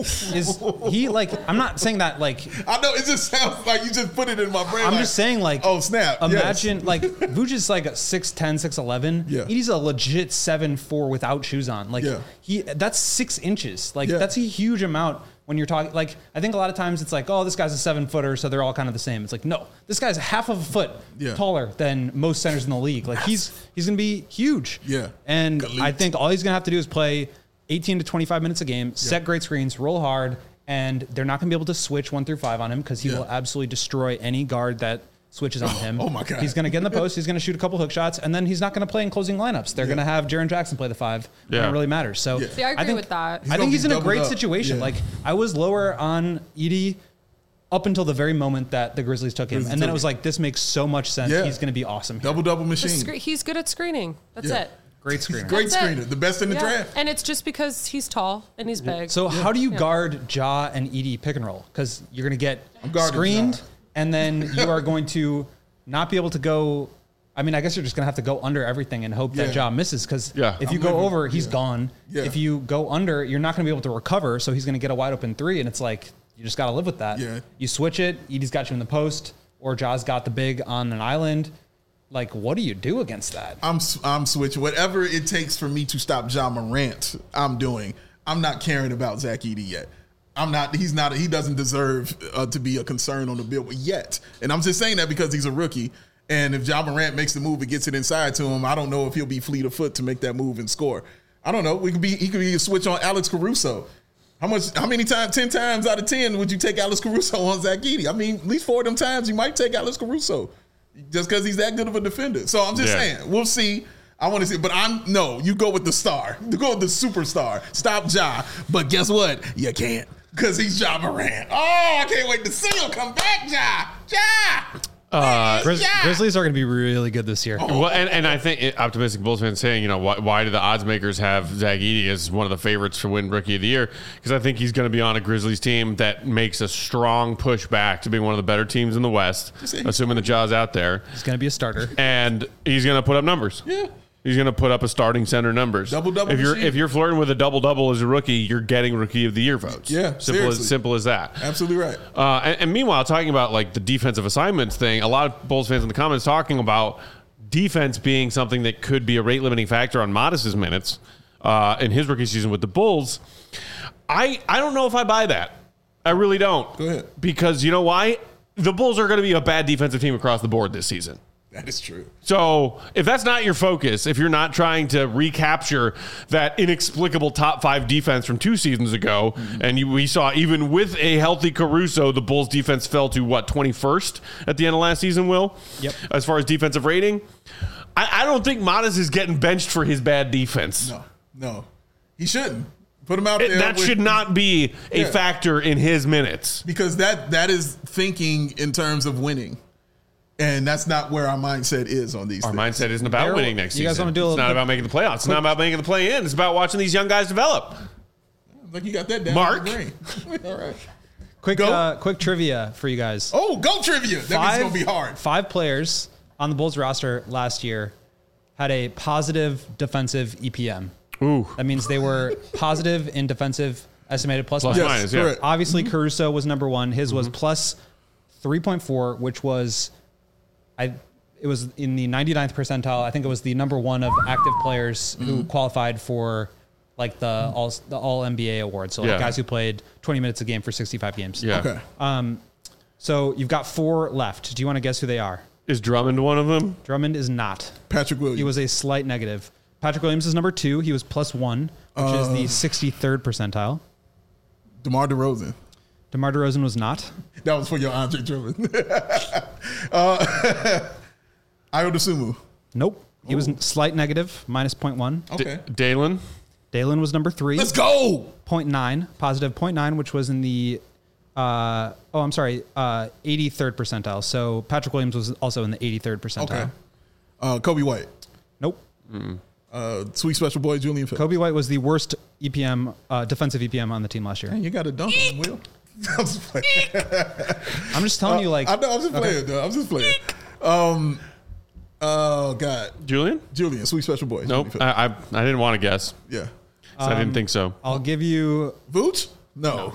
is he like I'm not saying that like I know it just sounds like you just put it in my brain. I'm just saying like oh snap. Imagine like Vooch is like a 6'10", 6'11". Yeah. He's a legit 7'4" without shoes on. Like that's 6 inches. Like that's a huge amount when you're talking like I think a lot of times it's like, oh, this guy's a 7-footer, so they're all kind of the same. It's like, no, this guy's half of a foot taller than most centers in the league. Like he's gonna be huge. Yeah. And I think all he's gonna have to do is play 18 to 25 minutes a game, set great screens, roll hard, and they're not going to be able to switch 1 through 5 on him because he will absolutely destroy any guard that switches on him. Oh my God. He's going to get in the post, he's going to shoot a couple hook shots, and then he's not going to play in closing lineups. They're going to have Jaren Jackson play the 5 when it really matters. So See, I agree with that. I think he's in a great situation. Like I was lower on Edey up until the very moment that the Grizzlies took him. And then it was like, this makes so much sense. He's going to be awesome here. Double machine. He's good at screening. That's it. Great screener. Great screener. The best in the draft. And it's just because he's tall and he's big. So how do you guard Ja and Edey pick and roll? Because you're going to get screened, and then you are going to not be able to go. I mean, I guess you're just going to have to go under everything and hope that Ja misses. Because if you go over, he's gone. If you go under, you're not going to be able to recover. So he's going to get a wide open 3, and it's like you just got to live with that. You switch it. Edey's got you in the post, or Ja's got the big on an island. Like, what do you do against that? I'm switching. Whatever it takes for me to stop Ja Morant, I'm doing. I'm not caring about Zach Edey yet. I'm not. He's not. He doesn't deserve to be a concern on the bill yet. And I'm just saying that because he's a rookie. And if Ja Morant makes the move and gets it inside to him, I don't know if he'll be fleet of foot to make that move and score. I don't know. He could be a switch on Alex Caruso. How many times? 10 times out of 10 would you take Alex Caruso on Zach Edey? I mean, at least 4 of them times you might take Alex Caruso. Just because he's that good of a defender. So I'm just saying, we'll see. I want to see, but you go with the star. You go with the superstar. Stop Ja. But guess what? You can't because he's Ja Morant. Oh, I can't wait to see him come back, Ja. Grizzlies are going to be really good this year. Well, and I think optimistic Bulls fans saying, why do the odds makers have Zach Edey as one of the favorites to win Rookie of the Year? Because I think he's going to be on a Grizzlies team that makes a strong push back to being one of the better teams in the West, assuming that Ja's out there. He's going to be a starter, and he's going to put up numbers. Yeah. He's going to put up a starting center numbers. Double-double if you're flirting with a double-double as a rookie, you're getting Rookie of the Year votes. Yeah, simple as that. Absolutely right. And meanwhile, talking about like the defensive assignments thing, a lot of Bulls fans in the comments talking about defense being something that could be a rate limiting factor on Modest's minutes in his rookie season with the Bulls, I don't know if I buy that. I really don't. Go ahead. Because you know why? The Bulls are going to be a bad defensive team across the board this season. That is true. So if that's not your focus, if you're not trying to recapture that inexplicable top 5 defense from 2 seasons ago, and we saw even with a healthy Caruso, the Bulls defense fell to 21st at the end of last season, Will? Yep. As far as defensive rating, I don't think Modest is getting benched for his bad defense. No. He shouldn't. Put him out there. That should not be a factor in his minutes. Because that is thinking in terms of winning. And that's not where our mindset is on these Our things. mindset isn't about winning next season. You guys want to do It's not about making the playoffs. It's not about making the play-in. It's about watching these young guys develop. Like you got that down. Mark. All right. Quick trivia for you guys. Oh, go trivia. That means it's going to be hard. 5 players on the Bulls roster last year had a positive defensive EPM. Ooh. That means they were positive in defensive estimated plus Plus minus. minus, yeah. correct. Obviously, Caruso was number 1. His was plus 3.4, which was, it was in the 99th percentile. I think it was the number 1 of active players who qualified for like the all NBA award. So like guys who played 20 minutes a game for 65 games. Yeah. Okay. So you've got 4 left. Do you want to guess who they are? Is Drummond one of them? Drummond is not. Patrick Williams. He was a slight negative. Patrick Williams is number 2. He was plus 1, which is the 63rd percentile. DeMar DeRozan. DeMar DeRozan was not. That was for your Andre Drummond. Ayo Dosunmu. Nope. He was slight negative, minus 0.1. Okay. Dalen? Dalen was number 3. Let's go. 0.9, positive 0.9, which was in the 83rd percentile. So Patrick Williams was also in the 83rd percentile. Okay. Kobe White. Nope. Sweet special boy Julian Phillips. Kobe White was the worst EPM, defensive EPM on the team last year. Man, you got a dunk on him, Will. I'm just playing. I'm just telling you, like, I know. I'm just playing. Though. I'm just playing. Oh God. Julian, Sweet special boy. Nope. I didn't want to guess. Yeah. So I didn't think so. I'll give you. Vooch? No.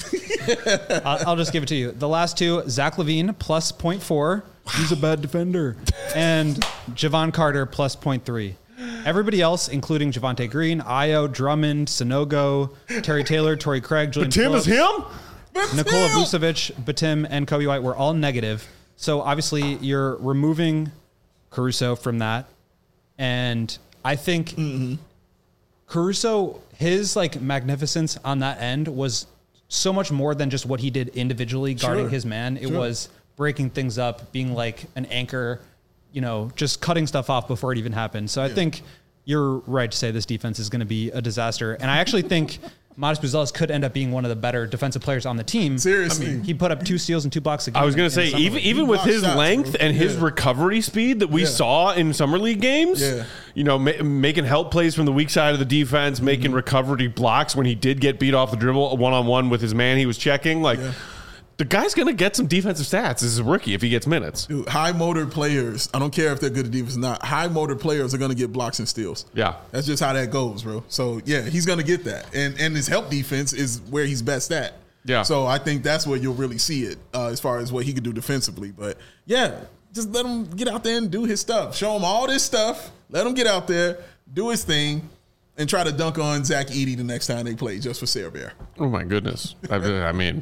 I'll just give it to you. The last 2, Zach LaVine plus 0.4. He's a bad defender. And Javon Carter plus 0.3. Everybody else, including Javonte Green, Ayo, Drummond, Sanogo, Terry Taylor, Torrey Craig, Julian Tim is Phillips, him? Nikola Vucevic, Batum, and Kobe White were all negative. So obviously you're removing Caruso from that. And I think Caruso, his like magnificence on that end was so much more than just what he did individually guarding his man. It was breaking things up, being like an anchor, you know, just cutting stuff off before it even happened. So I think you're right to say this defense is going to be a disaster. And I actually think Modest Buzelis could end up being one of the better defensive players on the team. Seriously. I mean, he put up 2 steals and 2 blocks a game. I was going to say, even with his length and his recovery speed that we saw in summer league games, you know, making help plays from the weak side of the defense, making recovery blocks when he did get beat off the dribble one-on-one with his man he was checking, like... The guy's going to get some defensive stats as a rookie if he gets minutes. Dude, high motor players, I don't care if they're good at defense or not, high motor players are going to get blocks and steals. Yeah. That's just how that goes, bro. So, yeah, he's going to get that. And his help defense is where he's best at. Yeah. So I think that's where you'll really see it as far as what he could do defensively. But, yeah, just let him get out there and do his stuff. Show him all this stuff. Let him get out there, do his thing, and try to dunk on Zach Edey the next time they play just for Sarah Bear. Oh, my goodness. I mean...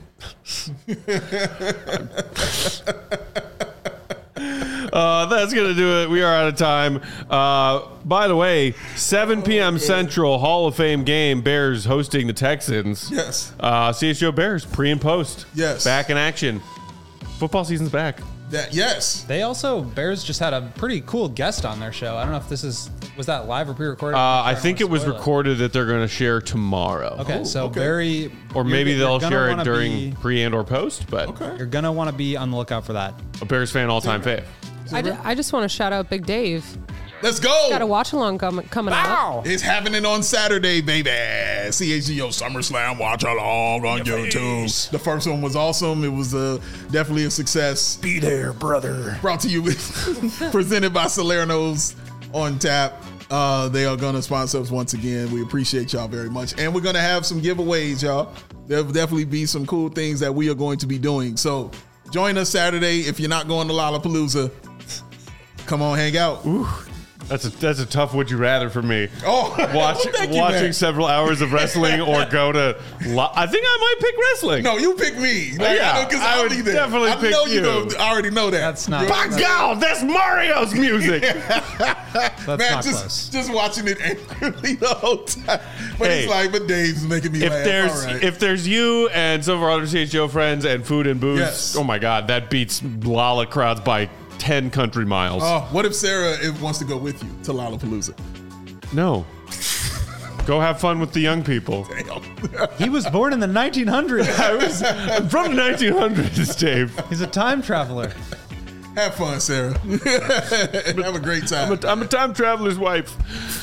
that's going to do it. We are out of time. By the way, 7 p.m. Central, Hall of Fame game, Bears hosting the Texans. Yes. CHGO Bears, pre and post. Yes. Back in action. Football season's back. Yes. They also, Bears just had a pretty cool guest on their show. I don't know if this was that live or pre-recorded? I think it was recorded that they're going to share tomorrow. Okay, so very... Or maybe they'll share it during pre and or post, but you're going to want to be on the lookout for that. A Bears fan all-time fave. I just want to shout out Big Dave. Let's go. Got a watch-along coming out. It's happening on Saturday, baby. CHGO SummerSlam watch-along on YouTube. The first one was awesome. It was definitely a success. Be there, brother. Brought to you presented by Salerno's on tap. They are going to sponsor us once again. We appreciate y'all very much. And we're going to have some giveaways, y'all. There'll definitely be some cool things that we are going to be doing. So join us Saturday. If you're not going to Lollapalooza, come on, hang out. Ooh. That's a tough would you rather for me. Oh, watching several hours of wrestling or go to. I think I might pick wrestling. No, you pick me. I would definitely pick you. I already know that. That's not. By God, that's Mario's music. That's not close. Just watching it angrily the whole time. But it's like, but Dave's making me laugh. If there's you and some of our other CHGO friends and food and booze, yes. Oh my God, that beats Lala crowds by 10 country miles. Oh, what if Sarah wants to go with you to Lollapalooza? No. Go have fun with the young people. Damn. He was born in the 1900s. I'm from the 1900s, Dave. He's a time traveler. Have fun, Sarah. Have a great time. I'm a time traveler's wife.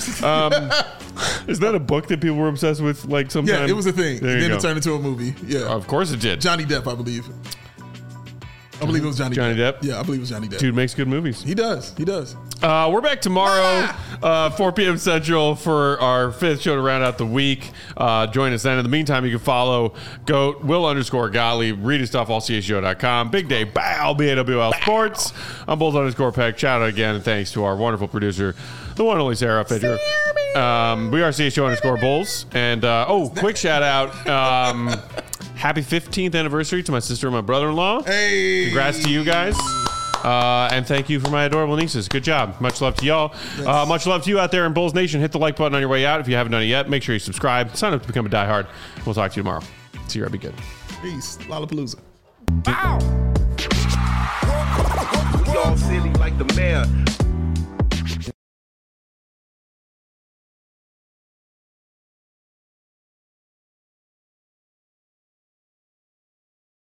Is that a book that people were obsessed with? Like sometime? Yeah, it was a thing. Then it turned into a movie. Yeah, of course it did. Johnny Depp, I believe. I believe it was Johnny Depp. Yeah, I believe it was Johnny Depp. Dude makes good movies. He does. We're back tomorrow, 4 p.m. Central for our 5th show to round out the week. Join us then. In the meantime, you can follow GOAT, Will_Gottlieb, read his stuff, allchgo.com. Big day, bow, BAWL Sports. I'm Bulls_Peck. Shout out again, and thanks to our wonderful producer, the one and only Sarah Fidger. We are CHGO_Bulls. And, quick shout out. Happy 15th anniversary to my sister and my brother-in-law. Hey. Congrats to you guys. And thank you for my adorable nieces. Good job. Much love to y'all. Much love to you out there in Bulls Nation. Hit the like button on your way out if you haven't done it yet. Make sure you subscribe. Sign up to become a diehard. We'll talk to you tomorrow. See you. Be good. Peace. Lollapalooza. Y'all silly like the mayor.